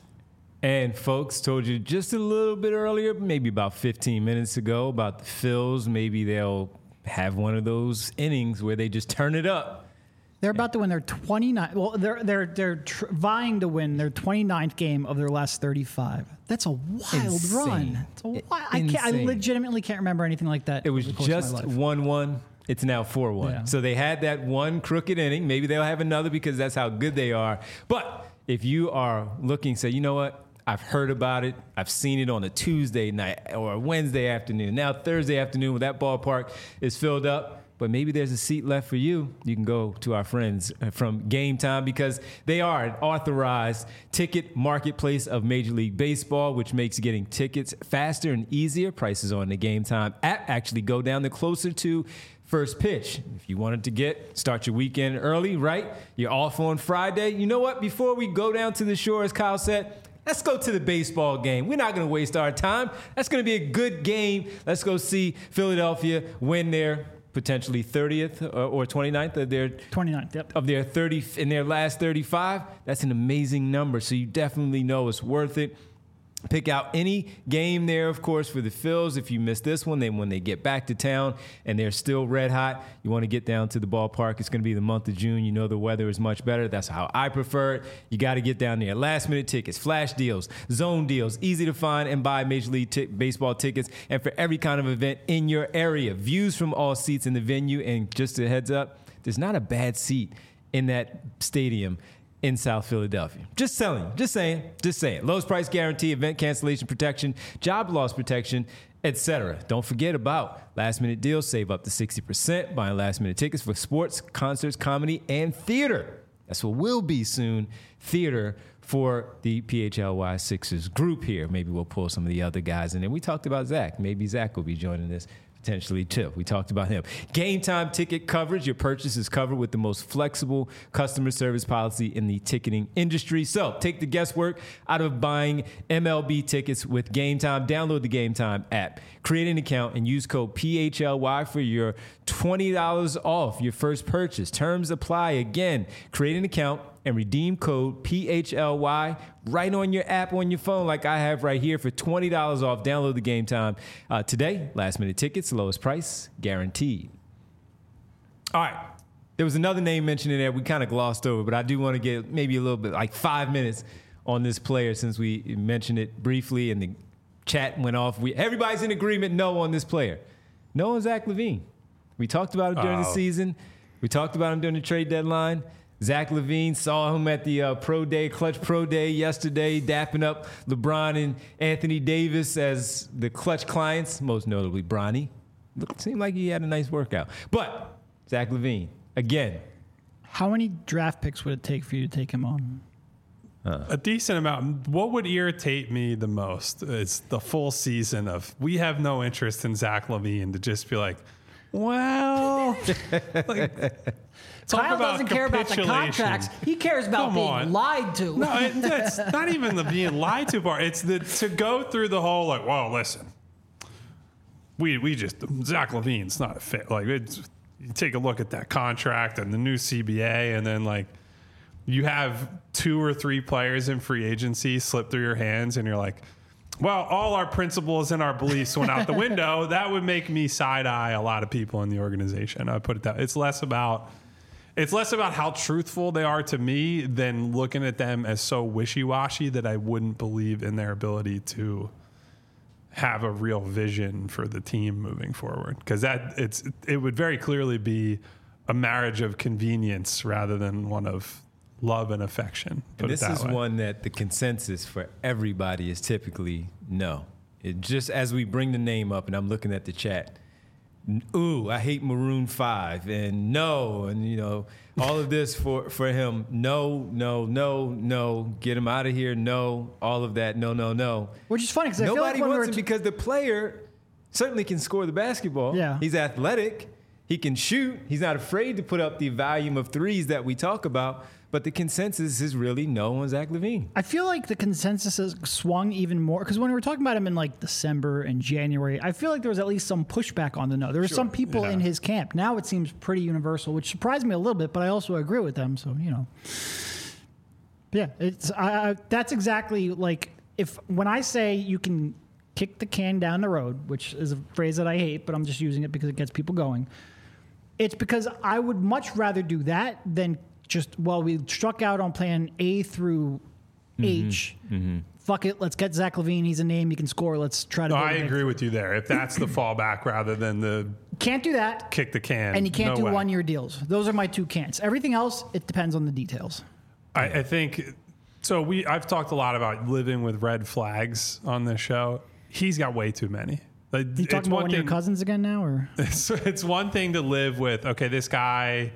And folks, told you just a little bit earlier, maybe about fifteen minutes ago, about the Phils. Maybe they'll have one of those innings where they just turn it up. They're about to win their twenty-ninth. Well, they're they're they're tr- vying to win their twenty-ninth game of their last thirty-five. That's a wild Insane. run. It's a wild, I can't. I Insane. legitimately can't remember anything like that. It was over the course of my just life. one one. It's now four one. Yeah. So they had that one crooked inning. Maybe they'll have another because that's how good they are. But if you are looking, say, you know what? I've heard about it. I've seen it on a Tuesday night or a Wednesday afternoon. Now Thursday afternoon when that ballpark is filled up. But maybe there's a seat left for you. You can go to our friends from Game Time because they are an authorized ticket marketplace of Major League Baseball, which makes getting tickets faster and easier. Prices on the Game Time app actually go down the closer to first pitch. If you wanted to get, start your weekend early, right? You're off on Friday. You know what? Before we go down to the shore, as Kyle said, let's go to the baseball game. We're not going to waste our time. That's going to be a good game. Let's go see Philadelphia win their potentially thirtieth or, or twenty-ninth of their twenty-ninth. Yep. of their thirty in their last thirty-five. That's an amazing number. So you definitely know it's worth it. Pick out any game there, of course, for the Phils. If you miss this one, then when they get back to town and they're still red hot, you want to get down to the ballpark. It's going to be the month of June. You know the weather is much better. That's how I prefer it. You got to get down there. Last minute tickets, flash deals, zone deals, easy to find and buy Major League t- Baseball tickets, and for every kind of event in your area. Views from all seats in the venue, and just a heads up, there's not a bad seat in that stadium in South Philadelphia. Just selling, just saying, just saying. Lowest price guarantee, event cancellation protection, job loss protection, et cetera. Don't forget about last minute deals. Save up to sixty percent buying last minute tickets for sports, concerts, comedy, and theater. That's what will be soon, theater for the P H L Y Sixers group here. Maybe we'll pull some of the other guys in there. We talked about Zach. Maybe Zach will be joining this potentially too. We talked about him. Game Time ticket coverage. Your purchase is covered with the most flexible customer service policy in the ticketing industry. So take the guesswork out of buying M L B tickets with Game Time. Download the Game Time app. Create an account and use code P H L Y for your twenty dollars off your first purchase. Terms apply. Again, create an account and redeem code P H L Y right on your app on your phone like I have right here for twenty dollars off. Download the Game Time uh, today. Last minute tickets, lowest price, guaranteed. All right. There was another name mentioned in there we kind of glossed over, but I do want to get maybe a little bit, like five minutes on this player since we mentioned it briefly and the chat went off. We Everybody's in agreement, no on this player. No on Zach LaVine. We talked about it during the Oh. season. We talked about him during the trade deadline. Zach LaVine, saw him at the uh, Pro Day, Clutch Pro Day yesterday, dapping up LeBron and Anthony Davis as the Clutch clients, most notably Bronny. Looked, seemed like he had a nice workout. But Zach LaVine, again. How many draft picks would it take for you to take him on? A decent amount. What would irritate me the most is the full season of we have no interest in Zach LaVine to just be like, well, like, talk Kyle about doesn't care about the capitulation. contracts. He cares about Come being on. lied to. No, it, it's not even the being lied to part. It's the to go through the whole like, well, listen, we we just Zach LaVine's not a fit. Like, it's, you take a look at that contract and the new C B A, and then like you have two or three players in free agency slip through your hands, and you're like, well, all our principles and our beliefs went out the window, that would make me side-eye a lot of people in the organization. I put it that it's less about it's less about how truthful they are to me than looking at them as so wishy-washy that I wouldn't believe in their ability to have a real vision for the team moving forward. Because that it's it would very clearly be a marriage of convenience rather than one of love and affection. And this is way. one that the consensus for everybody is typically no. It just as we bring the name up, and I'm looking at the chat, ooh, I hate Maroon five, and no, and you know, all of this for, for him, no, no, no, no, get him out of here, no, all of that, no, no, no. Which is funny because I feel nobody like wants him t- because the player certainly can score the basketball. Yeah. He's athletic. He can shoot. He's not afraid to put up the volume of threes that we talk about. But the consensus is really no on Zach LaVine. I feel like the consensus has swung even more because when we were talking about him in like December and January, I feel like there was at least some pushback on the no. There were Sure. some people Yeah. in his camp. Now it seems pretty universal, which surprised me a little bit, but I also agree with them. So, you know. Yeah, it's I, I, that's exactly like if when I say you can kick the can down the road, which is a phrase that I hate, but I'm just using it because it gets people going. It's because I would much rather do that than just, well, we struck out on plan A through mm-hmm. H. Mm-hmm. Fuck it, let's get Zach LaVine. He's a name, he can score. Let's try to. No, I agree with you there. If that's the fallback rather than the can't do that, kick the can, and you can't no do way. one-year deals. Those are my two can'ts. Everything else, it depends on the details. I, I think so. We I've talked a lot about living with red flags on this show. He's got way too many. Like, you talking about one thing, of your cousins again now, or it's, it's one thing to live with. Okay, this guy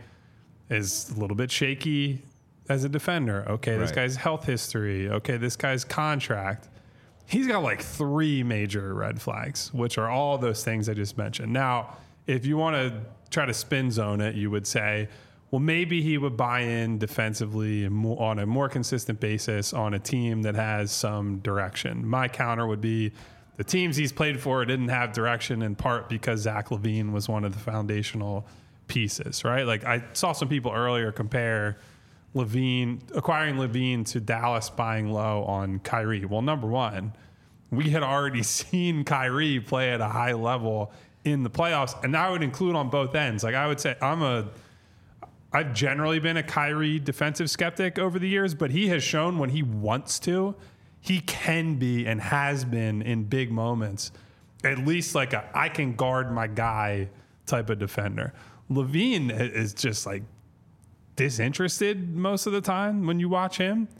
is a little bit shaky as a defender. Okay, this right. guy's health history. Okay, this guy's contract. He's got like three major red flags, which are all those things I just mentioned. Now, if you want to try to spin zone it, you would say, well, maybe he would buy in defensively and more, on a more consistent basis on a team that has some direction. My counter would be the teams he's played for didn't have direction in part because Zach LaVine was one of the foundational pieces, right? Like I saw some people earlier compare LaVine, acquiring LaVine to Dallas buying low on Kyrie. Well, number one, we had already seen Kyrie play at a high level in the playoffs, and that would include on both ends. Like I would say I'm a I've generally been a Kyrie defensive skeptic over the years, but he has shown when he wants to, he can be and has been in big moments, at least like a I can guard my guy type of defender. LaVine is just like disinterested most of the time when you watch him.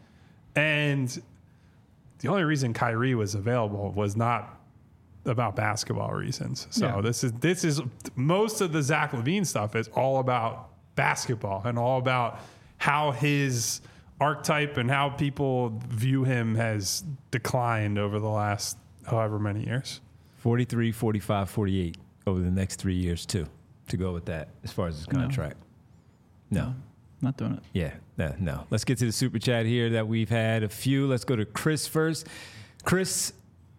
And the only reason Kyrie was available was not about basketball reasons. So yeah. this is this is most of the Zach LaVine stuff is all about basketball and all about how his archetype and how people view him has declined over the last however many years. forty-three, forty-five, forty-eight over the next three years too, to go with that as far as his contract. No. no. Not doing it. Yeah, no, no. Let's get to the super chat here that we've had a few. Let's go to Chris first. Chris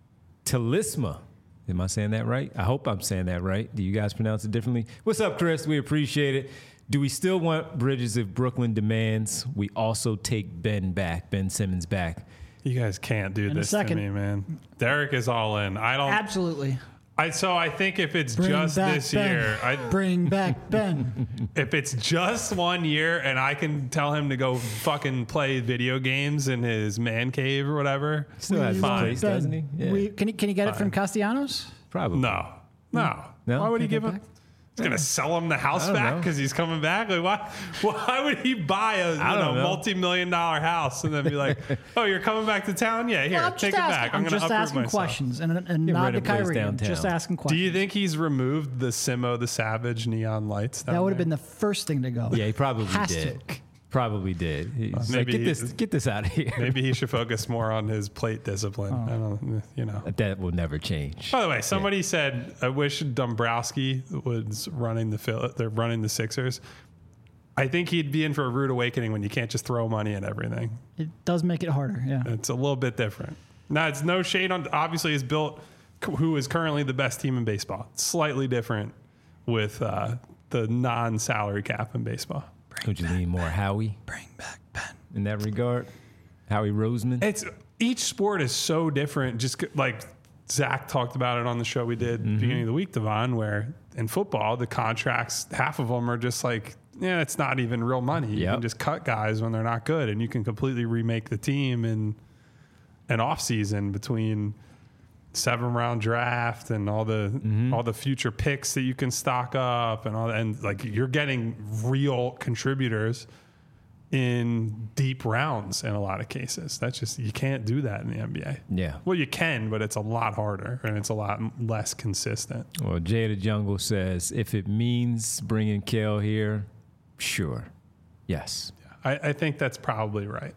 Talisma. Am I saying that right? I hope I'm saying that right. Do you guys pronounce it differently? What's up, Chris? We appreciate it. Do we still want Bridges if Brooklyn demands we also take Ben back, Ben Simmons back? You guys can't do in this to me, man. Derek is all in. I don't. Absolutely. I, so I think if it's Bring just back this Ben. year, I, Bring back Ben. if it's just one year and I can tell him to go fucking play video games in his man cave or whatever, still has want place, Ben. doesn't he? Yeah. We, can, he can he get Fine. it from Castellanos? Probably. No. No. No? Why would he Take it give him? back? He's going to sell him the house don't back know. because he's coming back? Like, why Why would he buy a you I know, don't know. multi-million dollar house and then be like, oh, you're coming back to town? Yeah, here, Well, I'm take just it asking, back. I'm, I'm going to just uproot asking myself. questions and, and Get not rid the of a place Kyrie. I'm downtown. just asking Do questions. you think he's removed the Simo the Savage neon lights? Down that would have there? been the first thing to go. Yeah, he probably Has did. to. Probably did. He's like, maybe get he- this, get this out of here. Maybe he should focus more on his plate discipline. Oh. I don't, you know. That will never change. By the way, somebody said, "I wish Dombrowski was running the Phil- they're running the Sixers." I think he'd be in for a rude awakening when you can't just throw money at everything. It does make it harder, yeah. It's a little bit different. Now, it's no shade on. Obviously, he's built who is currently the best team in baseball. It's slightly different with uh, the non-salary cap in baseball. Would you lean more Howie Bring back Ben. in that regard? Howie Roseman? It's each sport is so different. Just like Zach talked about it on the show we did Mm-hmm. beginning of the week, Devon, where in football, the contracts, half of them are just like, yeah, it's not even real money. You Yep. can just cut guys when they're not good, and you can completely remake the team in an off season between seven round draft and all the Mm-hmm. all the future picks that you can stock up and all that. And like you're getting real contributors in deep rounds in a lot of cases. That's just, you can't do that in the N B A. Yeah. Well, you can, but it's a lot harder and it's a lot less consistent. Well, Jay the Jungle says, if it means bringing Kale here, sure. Yes. I, I think that's probably right.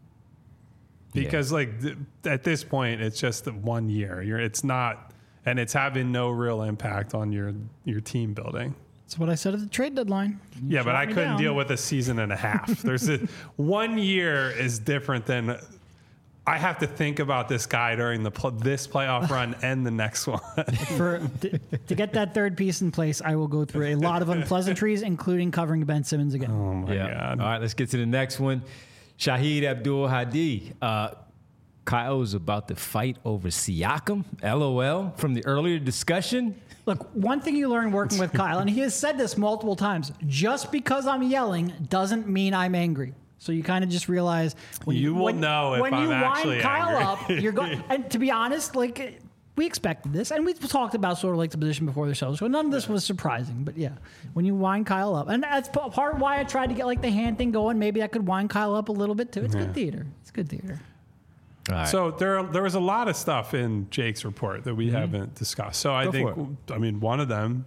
Because like th- at this point, it's just one year. You're, it's not, and it's having no real impact on your your team building. That's what I said at the trade deadline. You Yeah, but shot I me couldn't down. deal with a season and a half. There's a one year is different than I have to think about this guy during the pl- this playoff run and the next one. For to, to get that third piece in place, I will go through a lot of unpleasantries, including covering Ben Simmons again. Oh my yeah. god! All right, let's get to the next one. Shahid Abdul Hadi. Uh, Kyle is about to fight over Siakam. LOL from the earlier discussion. Look, one thing you learn working with Kyle, and he has said this multiple times, just because I'm yelling doesn't mean I'm angry. So you kind of just realize when You will when, know if when I'm you actually wind Kyle angry. up, you're going. And to be honest, like we expected this, and we talked about sort of like the position before the show, so none of this was surprising. But yeah, when you wind Kyle up, and that's p- part of why I tried to get like the hand thing going. Maybe I could wind Kyle up a little bit too. It's good theater. It's good theater. All right. So there, there was a lot of stuff in Jake's report that we haven't discussed. So I Go think, for I mean, one of them,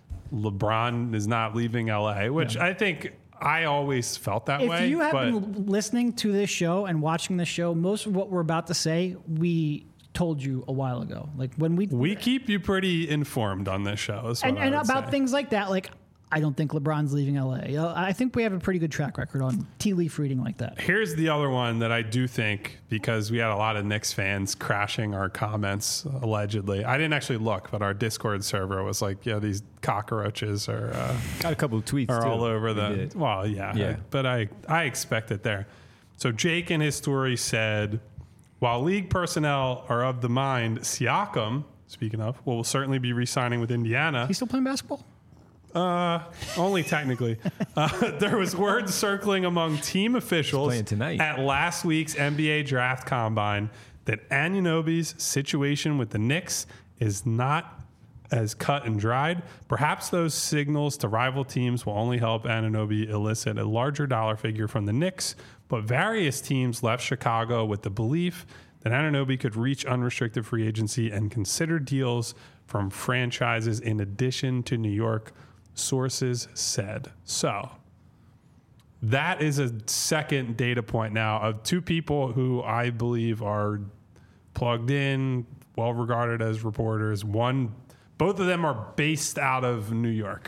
LeBron is not leaving L A, which I think I always felt that If way. you have but been listening to this show and watching this show, most of what we're about to say, we told you a while ago. Like when we we keep you pretty informed on this show. is what and, I and would about say. things like that. Like I don't think LeBron's leaving L A. Uh, I think we have a pretty good track record on tea leaf reading like that. Here's the other one that I do think, because we had a lot of Knicks fans crashing our comments, allegedly. I didn't actually look, but our Discord server was like, yeah, these cockroaches are uh, Got a couple of tweets are too. all over We the. did. Well, yeah, Yeah. I- but I I expect it there. So Jake in his story said, while league personnel are of the mind, Siakam, speaking of, will certainly be re-signing with Indiana. He's still playing basketball? Uh, only technically. Uh, there was word circling among team officials playing tonight. at last week's N B A draft combine that Anunoby's situation with the Knicks is not as cut and dried. Perhaps those signals to rival teams will only help Anunoby elicit a larger dollar figure from the Knicks, but various teams left Chicago with the belief that Anunoby could reach unrestricted free agency and consider deals from franchises in addition to New York, sources said. So that is a second data point now of two people who I believe are plugged in, well regarded as reporters. One, both of them are based out of New York.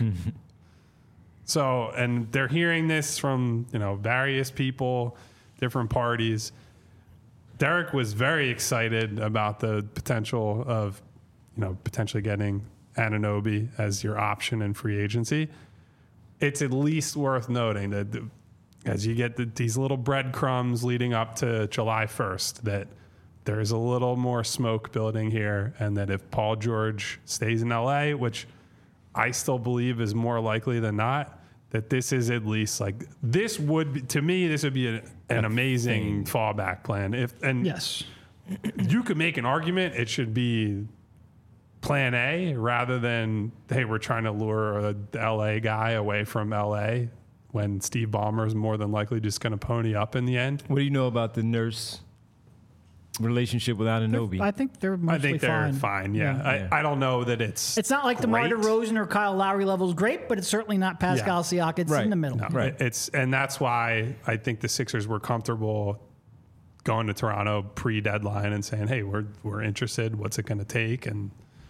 So, and they're hearing this from, you know, various people, different parties. Derek was very excited about the potential of, you know, potentially getting Anunoby as your option in free agency. It's at least worth noting that the, as you get the, these little breadcrumbs leading up to July first, that there is a little more smoke building here, and that if Paul George stays in L A, which I still believe is more likely than not, that this is at least like this would be, to me, this would be an, an amazing fallback plan. If and Yes. you could make an argument it should be plan A rather than, hey, we're trying to lure a L A guy away from L A when Steve Ballmer is more than likely just going to pony up in the end. What do you know about the Nurse relationship with Anunoby? I think they're I mostly think they're fine. fine. Yeah, Yeah. I, I don't know that it's. It's not like the great. DeMar DeRozan or Kyle Lowry level is great, but it's certainly not Pascal Siakam. It's Right. in the middle. No, Right. it- It's and that's why I think the Sixers were comfortable going to Toronto pre-deadline and saying, "Hey, we're we're interested. What's it going to take?" And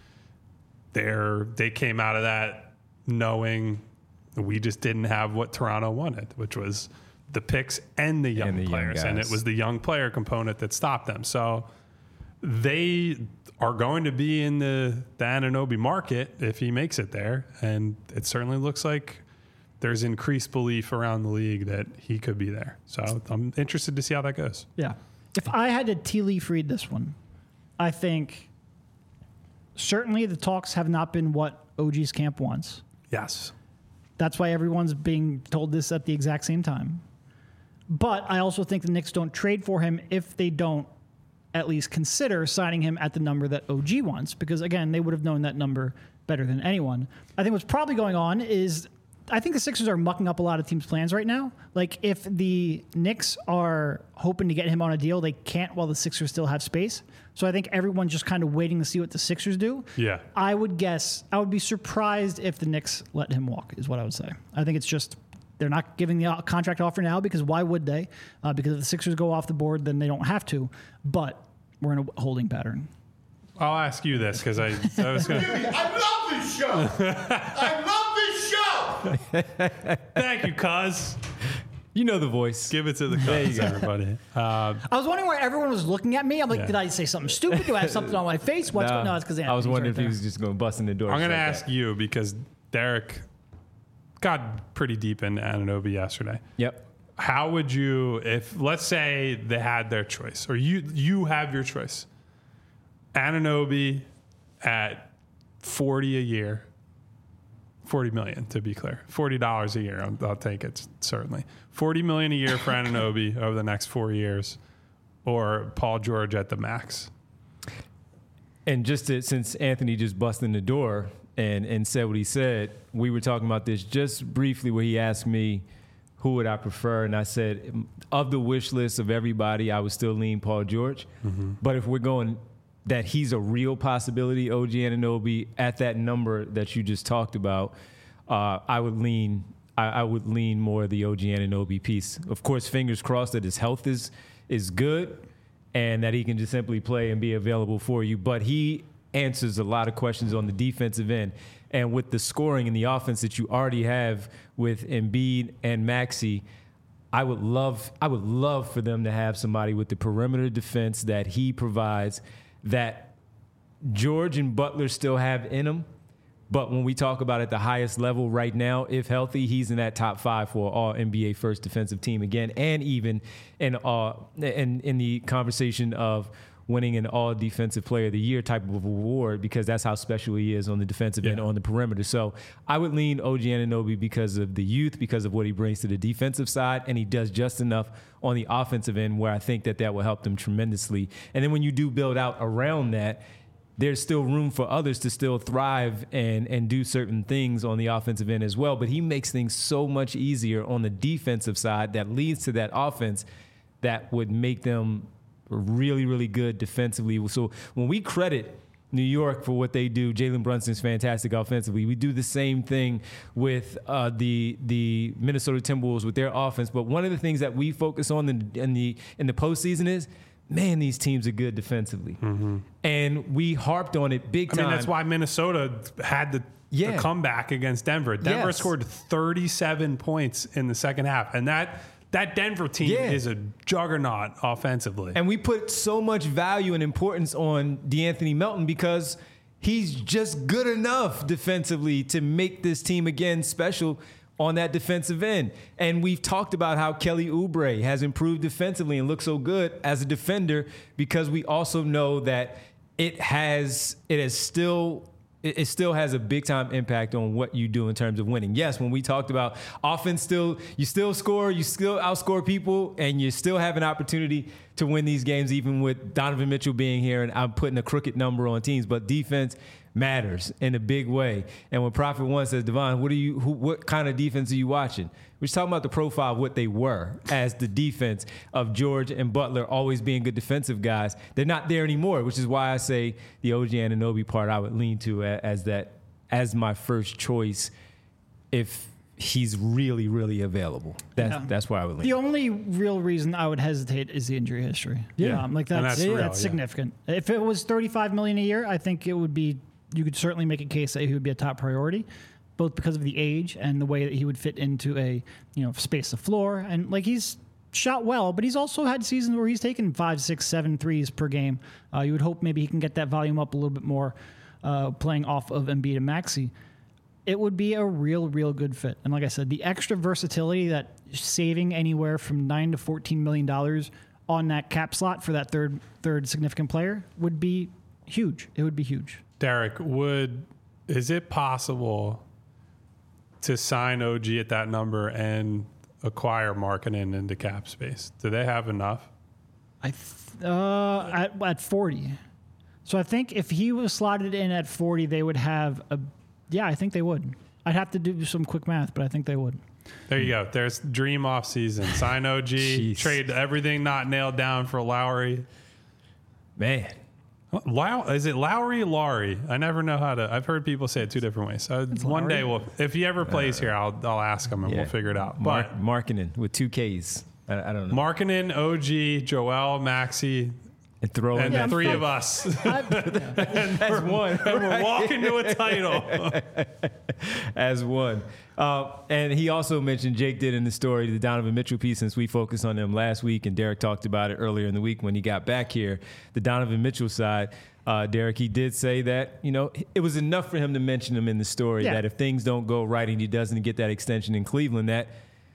they're they came out of that knowing we just didn't have what Toronto wanted, which was the picks and the young And the young players, and it guys. was the young player component that stopped them. So they are going to be in the, the Anunoby market if he makes it there, and it certainly looks like there's increased belief around the league that he could be there. So I'm interested to see how that goes. Yeah. If I had to tea leaf read this one, I think certainly the talks have not been what O G's camp wants. Yes. That's why everyone's being told this at the exact same time. But I also think the Knicks don't trade for him if they don't at least consider signing him at the number that O G wants, because again, they would have known that number better than anyone. I think what's probably going on is I think the Sixers are mucking up a lot of teams' plans right now. Like if the Knicks are hoping to get him on a deal, they can't while the Sixers still have space. So I think everyone's just kind of waiting to see what the Sixers do. Yeah. I would guess, I would be surprised if the Knicks let him walk, is what I would say. I think it's just, they're not giving the contract offer now because why would they? Uh, because if the Sixers go off the board, then they don't have to. But we're in a holding pattern. I'll ask you this because I, I was going to. I love this show. I love this show. Thank you, cuz. You know the voice. Give it to the cuz, everybody. Uh, I was wondering why everyone was looking at me. I'm like, Yeah. did I say something stupid? Do I have something on my face? What's Nah, going on? No, it's because I was wondering right if he was just going to bust in the door. I'm going to just like ask that. you because Derek got pretty deep into Anunoby yesterday. Yep. How would you, if let's say they had their choice, or you you have your choice, Anunoby at forty a year, forty million to be clear, forty dollars a year. I'll, I'll take it certainly. Forty million a year for Anunoby over the next four years, or Paul George at the max. And just to, since Anthony just busted in the door and, and said what he said, we were talking about this just briefly where he asked me who would I prefer, and I said of the wish list of everybody, I would still lean Paul George. Mm-hmm. But if we're going that he's a real possibility, O G Anunoby, at that number that you just talked about, uh, I would lean I, I would lean more the O G Anunoby piece. Of course, fingers crossed that his health is is good and that he can just simply play and be available for you. But he answers a lot of questions on the defensive end. And with the scoring and the offense that you already have with Embiid and Maxey, I would love I would love for them to have somebody with the perimeter defense that he provides that George and Butler still have in them. But when we talk about at the highest level right now, if healthy, he's in that top five for all N B A first defensive team again, and even in uh in, in the conversation of winning an all defensive player of the year type of award, because that's how special he is on the defensive Yeah. end on the perimeter. So I would lean O G Anunoby because of the youth, because of what he brings to the defensive side, and he does just enough on the offensive end where I think that that will help them tremendously. And then when you do build out around that, there's still room for others to still thrive and and do certain things on the offensive end as well. But he makes things so much easier on the defensive side that leads to that offense that would make them really, really good defensively. So when we credit New York for what they do, Jalen Brunson's fantastic offensively. We do the same thing with uh, the the Minnesota Timberwolves with their offense. But one of the things that we focus on in, in the in the postseason is, man, these teams are good defensively. Mm-hmm. And we harped on it big I time. mean, that's why Minnesota had the, Yeah. the comeback against Denver. Denver Yes. scored thirty-seven points in the second half, and that that Denver team Yeah. is a juggernaut offensively. And we put so much value and importance on DeAnthony Melton because he's just good enough defensively to make this team again special on that defensive end. And we've talked about how Kelly Oubre has improved defensively and looks so good as a defender because we also know that it has it has still it it still has a big time impact on what you do in terms of winning. Yes, when we talked about offense, still you still score, you still outscore people, and you still have an opportunity to win these games, even with Donovan Mitchell being here and I'm putting a crooked number on teams. But defense matters in a big way. And when Prophet One says, Devon, what are you? Who, what kind of defense are you watching? We're just talking about the profile of what they were as the defense of George and Butler always being good defensive guys. They're not there anymore, which is why I say the O G Anunoby part I would lean to as that as my first choice if he's really, really available. That's Yeah. that's why I would lean. The only real reason I would hesitate is the injury history. Yeah. um, like And that's that's that's, real, yeah. significant. If it was thirty-five million a year, I think it would be. You could certainly make a case that he would be a top priority, both because of the age and the way that he would fit into a you know space the floor. And like he's shot well, but he's also had seasons where he's taken five, six, seven threes per game. Uh, you would hope maybe he can get that volume up a little bit more, uh, playing off of Embiid and Maxey. It would be a real, real good fit. And like I said, the extra versatility that saving anywhere from nine to fourteen million dollars on that cap slot for that third third significant player would be huge. It would be huge. Derek, would is it possible to sign O G at that number and acquire Markkanen into cap space? Do they have enough? I th- uh, at at forty. So I think if he was slotted in at forty, they would have a. Yeah, I think they would. I'd have to do some quick math, but I think they would. There you go. There's dream off season. Sign O G. Trade everything not nailed down for Lowry. Man. Low, is it Lowry or Lowry? I never know how to. I've heard people say it two different ways. So one Lowry. day, we'll, if he ever plays uh, here, I'll I'll ask him and yeah. we'll figure it out. Mark, But Markkanen with two Ks. I, I don't know. Markkanen, O G, Joel, Maxey, and throw and in the three of us. I, yeah. and As one. And we're walking to a title. As one. Uh, and he also mentioned, Jake did in the story, the Donovan Mitchell piece, since we focused on them last week, and Derek talked about it earlier in the week when he got back here. The Donovan Mitchell side, uh, Derek, he did say that, you know, it was enough for him to mention him in the story, yeah. that if things don't go right and he doesn't get that extension in Cleveland, that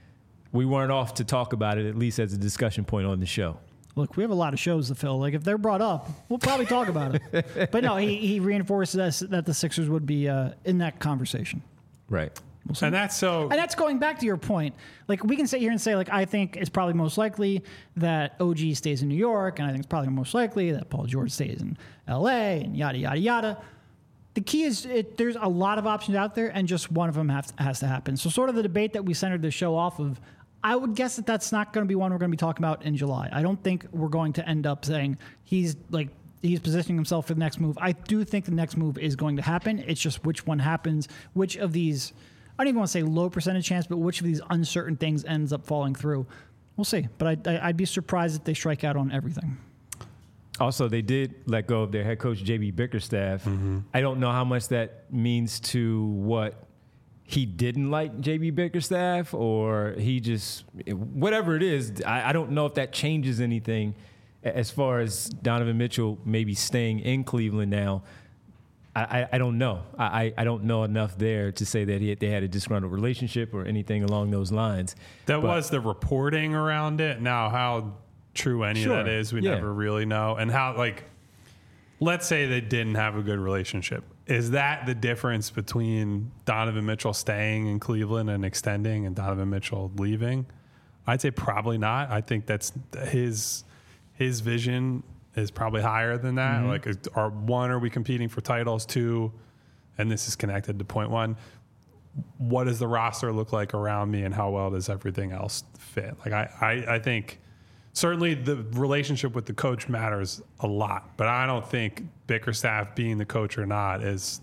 we weren't off to talk about it, at least as a discussion point on the show. Look, we have a lot of shows to fill. Like, if they're brought up, we'll probably talk about it. But no, he, he reinforced us that the Sixers would be uh, in that conversation. Right. We'll see. And that's so. And that's going back to your point. Like, we can sit here and say, like, I think it's probably most likely that O G stays in New York, and I think it's probably most likely that Paul George stays in L A, and yada, yada, yada. The key is it, there's a lot of options out there, and just one of them have to, has to happen. So sort of the debate that we centered the show off of, I would guess that that's not going to be one we're going to be talking about in July. I don't think we're going to end up saying he's like he's positioning himself for the next move. I do think the next move is going to happen. It's just which one happens, which of these, I don't even want to say low percentage chance, but which of these uncertain things ends up falling through. We'll see. But I, I, I'd be surprised if they strike out on everything. Also, they did let go of their head coach, J B Bickerstaff. Mm-hmm. I don't know how much that means to what he didn't like J B Bickerstaff, or he just, whatever it is, I, I don't know if that changes anything as far as Donovan Mitchell maybe staying in Cleveland now. I, I, I don't know. I, I don't know enough there to say that he, they had a disgruntled relationship or anything along those lines. That but, was the reporting around it. Now, how true any sure, of that is, we yeah. never really know. And how, like, let's say they didn't have a good relationship. Is that the difference between Donovan Mitchell staying in Cleveland and extending and Donovan Mitchell leaving? I'd say probably not. I think that's his his vision is probably higher than that. Mm-hmm. Like, are one, are we competing for titles? Two, and this is connected to point one, what does the roster look like around me, and how well does everything else fit? Like, I, I, I think certainly the relationship with the coach matters a lot, but I don't think Bickerstaff being the coach or not is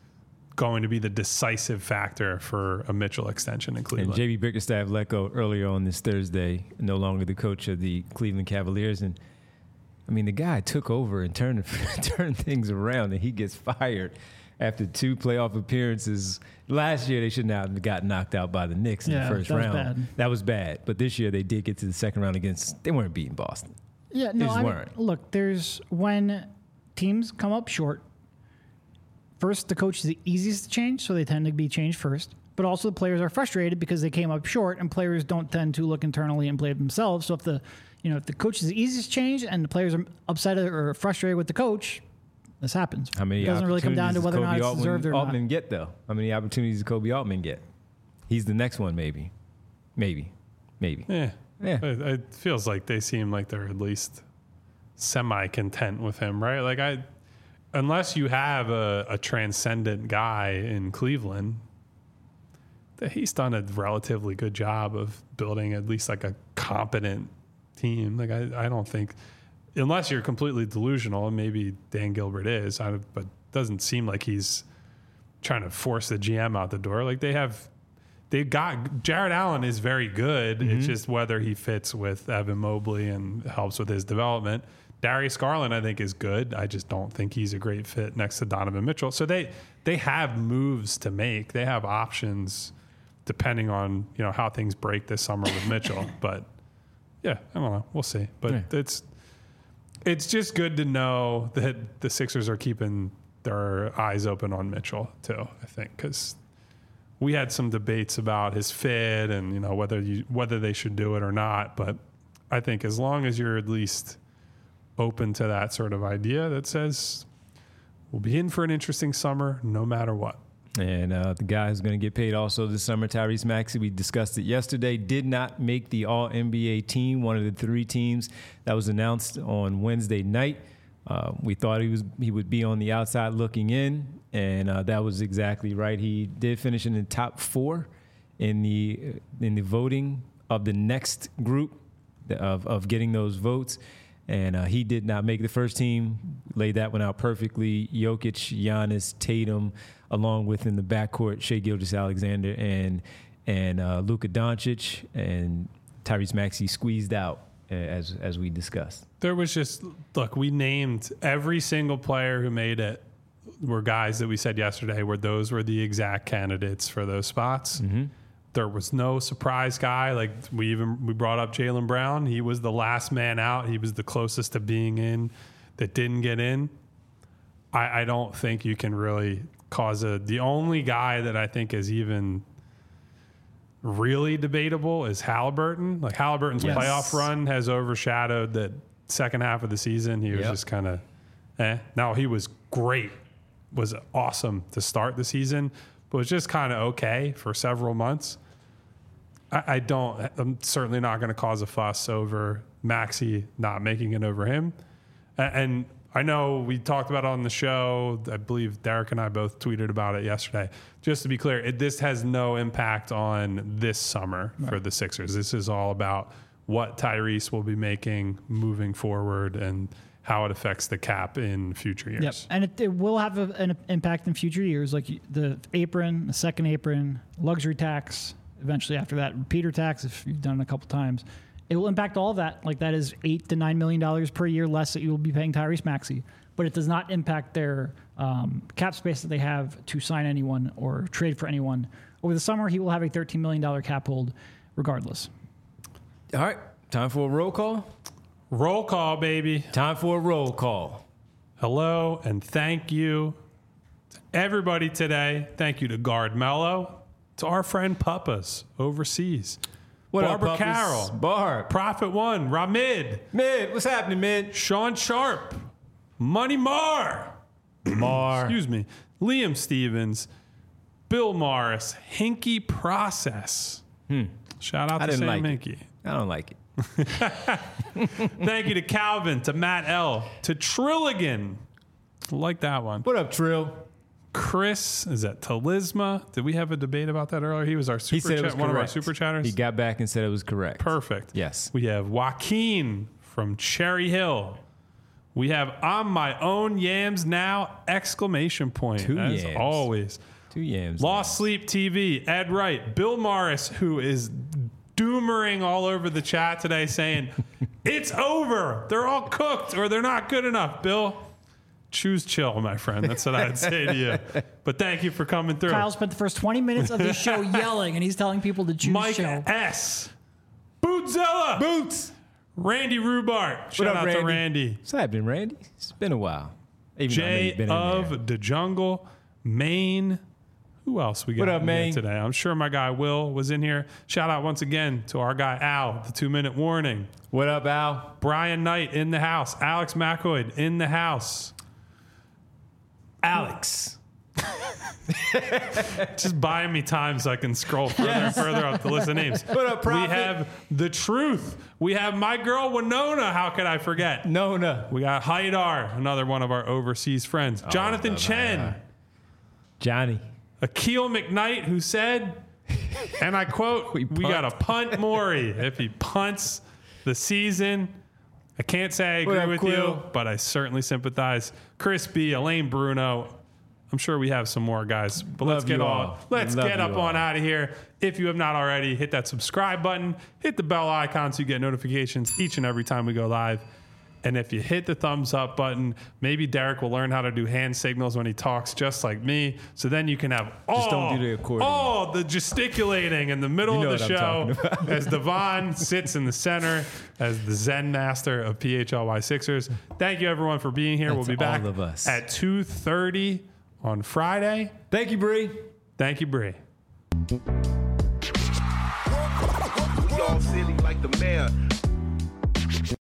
going to be the decisive factor for a Mitchell extension in Cleveland. And J B Bickerstaff let go earlier on this Thursday, no longer the coach of the Cleveland Cavaliers. And I mean, the guy took over and turned turned things around, and he gets fired after two playoff appearances. Last year, they should not have got knocked out by the Knicks in yeah, the first that round. Was bad. That was bad. But this year, they did get to the second round against. They weren't beating Boston. Yeah, they no, just I mean, weren't. Look, there's when teams come up short. First, the coach is the easiest to change, so they tend to be changed first. But also, the players are frustrated because they came up short, and players don't tend to look internally and blame themselves. So if the, you know, if the coach is the easiest change and the players are upset or frustrated with the coach, this happens. How many it doesn't really come down to opportunities whether or does not Kobe it's deserved or Altman not. get though? How many opportunities does Kobe Altman get? He's the next one, maybe, maybe, maybe. Yeah, Yeah. It, it feels like they seem like they're at least semi-content with him, right? Like, I, unless you have a, a transcendent guy in Cleveland, that he's done a relatively good job of building at least like a competent team. Like, I, I don't think, unless you're completely delusional, and maybe Dan Gilbert is, I, but it doesn't seem like he's trying to force the G M out the door. Like, they have, they've got, Jared Allen is very good. Mm-hmm. It's just whether he fits with Evan Mobley and helps with his development. Darius Garland, I think, is good. I just don't think he's a great fit next to Donovan Mitchell. So they they have moves to make. They have options depending on, you know, how things break this summer with Mitchell. But yeah, I don't know. We'll see. But Yeah. it's it's just good to know that the Sixers are keeping their eyes open on Mitchell too, I think, because we had some debates about his fit and, you know, whether you whether they should do it or not. But I think as long as you're at least open to that sort of idea that says we'll be in for an interesting summer no matter what. And uh, the guy who's going to get paid also this summer, Tyrese Maxey, we discussed it yesterday, did not make the All N B A team, one of the three teams that was announced on Wednesday night. Uh, we thought he was he would be on the outside looking in, and uh, that was exactly right. He did finish in the top four in the in the voting of the next group of of getting those votes, and uh, he did not make the first team. Laid that one out perfectly. Jokic, Giannis, Tatum, along with in the backcourt, Shai Gilgeous-Alexander and and uh, Luka Doncic, and Tyrese Maxey squeezed out uh, as as we discussed. There was just, look, we named every single player who made it were guys that we said yesterday where those were the exact candidates for those spots. Mm-hmm. There was no surprise guy. Like we even we brought up Jaylen Brown. He was the last man out. He was the closest to being in that didn't get in. I, I don't think you can really cause a, the only guy that I think is even really debatable is Halliburton. Like Halliburton's Yes. playoff run has overshadowed that second half of the season. He was Yep. just kind of, eh. Now he was great, was awesome to start the season, but was just kind of okay for several months. I, I don't, I'm certainly not going to cause a fuss over Maxey not making it over him. And, and I know we talked about it on the show. I believe Derek and I both tweeted about it yesterday. Just to be clear, it, this has no impact on this summer right. for the Sixers. This is all about what Tyrese will be making moving forward and how it affects the cap in future years. Yep, and it, it will have a, an impact in future years, like the apron, the second apron, luxury tax, eventually after that, repeater tax if you've done it a couple times. It will impact all of that. Like that is eight to nine million dollars per year less that you will be paying Tyrese Maxey, but it does not impact their um, cap space that they have to sign anyone or trade for anyone. Over the summer, he will have a thirteen million dollars cap hold regardless. All right, time for a roll call. Roll call, baby. Time for a roll call. Hello and thank you to everybody today. Thank you to Guard Mello, to our friend Puppas overseas. What Barbara up, Puppas? Carroll, Barb, Prophet One, Ramid, Mid, what's happening, Mid? Sean Sharp, Money Mar, Mar, excuse me, Liam Stevens, Bill Morris, Hinky Process. Hmm. Shout out I to didn't Sam like Hinky. it. I don't like it. Thank you to Calvin, to Matt L, to Trilligan. I like that one. What up, Trill? Chris, is that Talisma? Did we have a debate about that earlier? He was our super He said chat, it was one of our correct. super chatters. He got back and said it was correct. Perfect. Yes. We have Joaquin from Cherry Hill. We have on my own yams now! Exclamation point. Two as yams. always. Two yams. Lost Sleep T V. Ed Wright. Bill Morris, who is doomering all over the chat today, saying it's over. They're all cooked or they're not good enough. Bill, choose chill, my friend. That's what I'd say to you. But thank you for coming through. Kyle spent the first twenty minutes of the show yelling, and he's telling people to choose Mike chill. S. Bootzilla. Boots. Randy Rubart. Shout up, out Randy? to Randy. What's happening, Randy? It's been a while. Even though I know Jay you've been in there. of the Jungle, Maine. Who else we got What up, in here Maine? today? I'm sure my guy Will was in here. Shout out once again to our guy Al, the two minute warning. What up, Al? Brian Knight in the house. Alex McCoy in the house. Alex. Just buying me time so I can scroll further and further up the list of names. What up, We Prophet? have The Truth. We have my girl Winona. How could I forget? Nona. We got Haidar, another one of our overseas friends. Oh, Jonathan Chen. Johnny. Akil McKnight, who said, and I quote, we, We got to punt. punt Maury if he punts the season. I can't say I What agree up, with Quill? you, but I certainly sympathize. Chris B, Elaine Bruno. I'm sure we have some more guys, but let's Love get you on. all. Let's Love get you up all. on out of here. If you have not already, hit that subscribe button, hit the bell icon so you get notifications each and every time we go live. And if you hit the thumbs up button, maybe Derek will learn how to do hand signals when he talks, just like me. So then you can have all, don't do the accordion. all the gesticulating in the middle You know of the what I'm show talking as Devon sits in the center as the Zen master of P H L Y Sixers. Thank you, everyone, for being here. That's we'll be back all of us. at two thirty on Friday. Thank you, Bree. Thank you, Bree. We all silly like the mayor.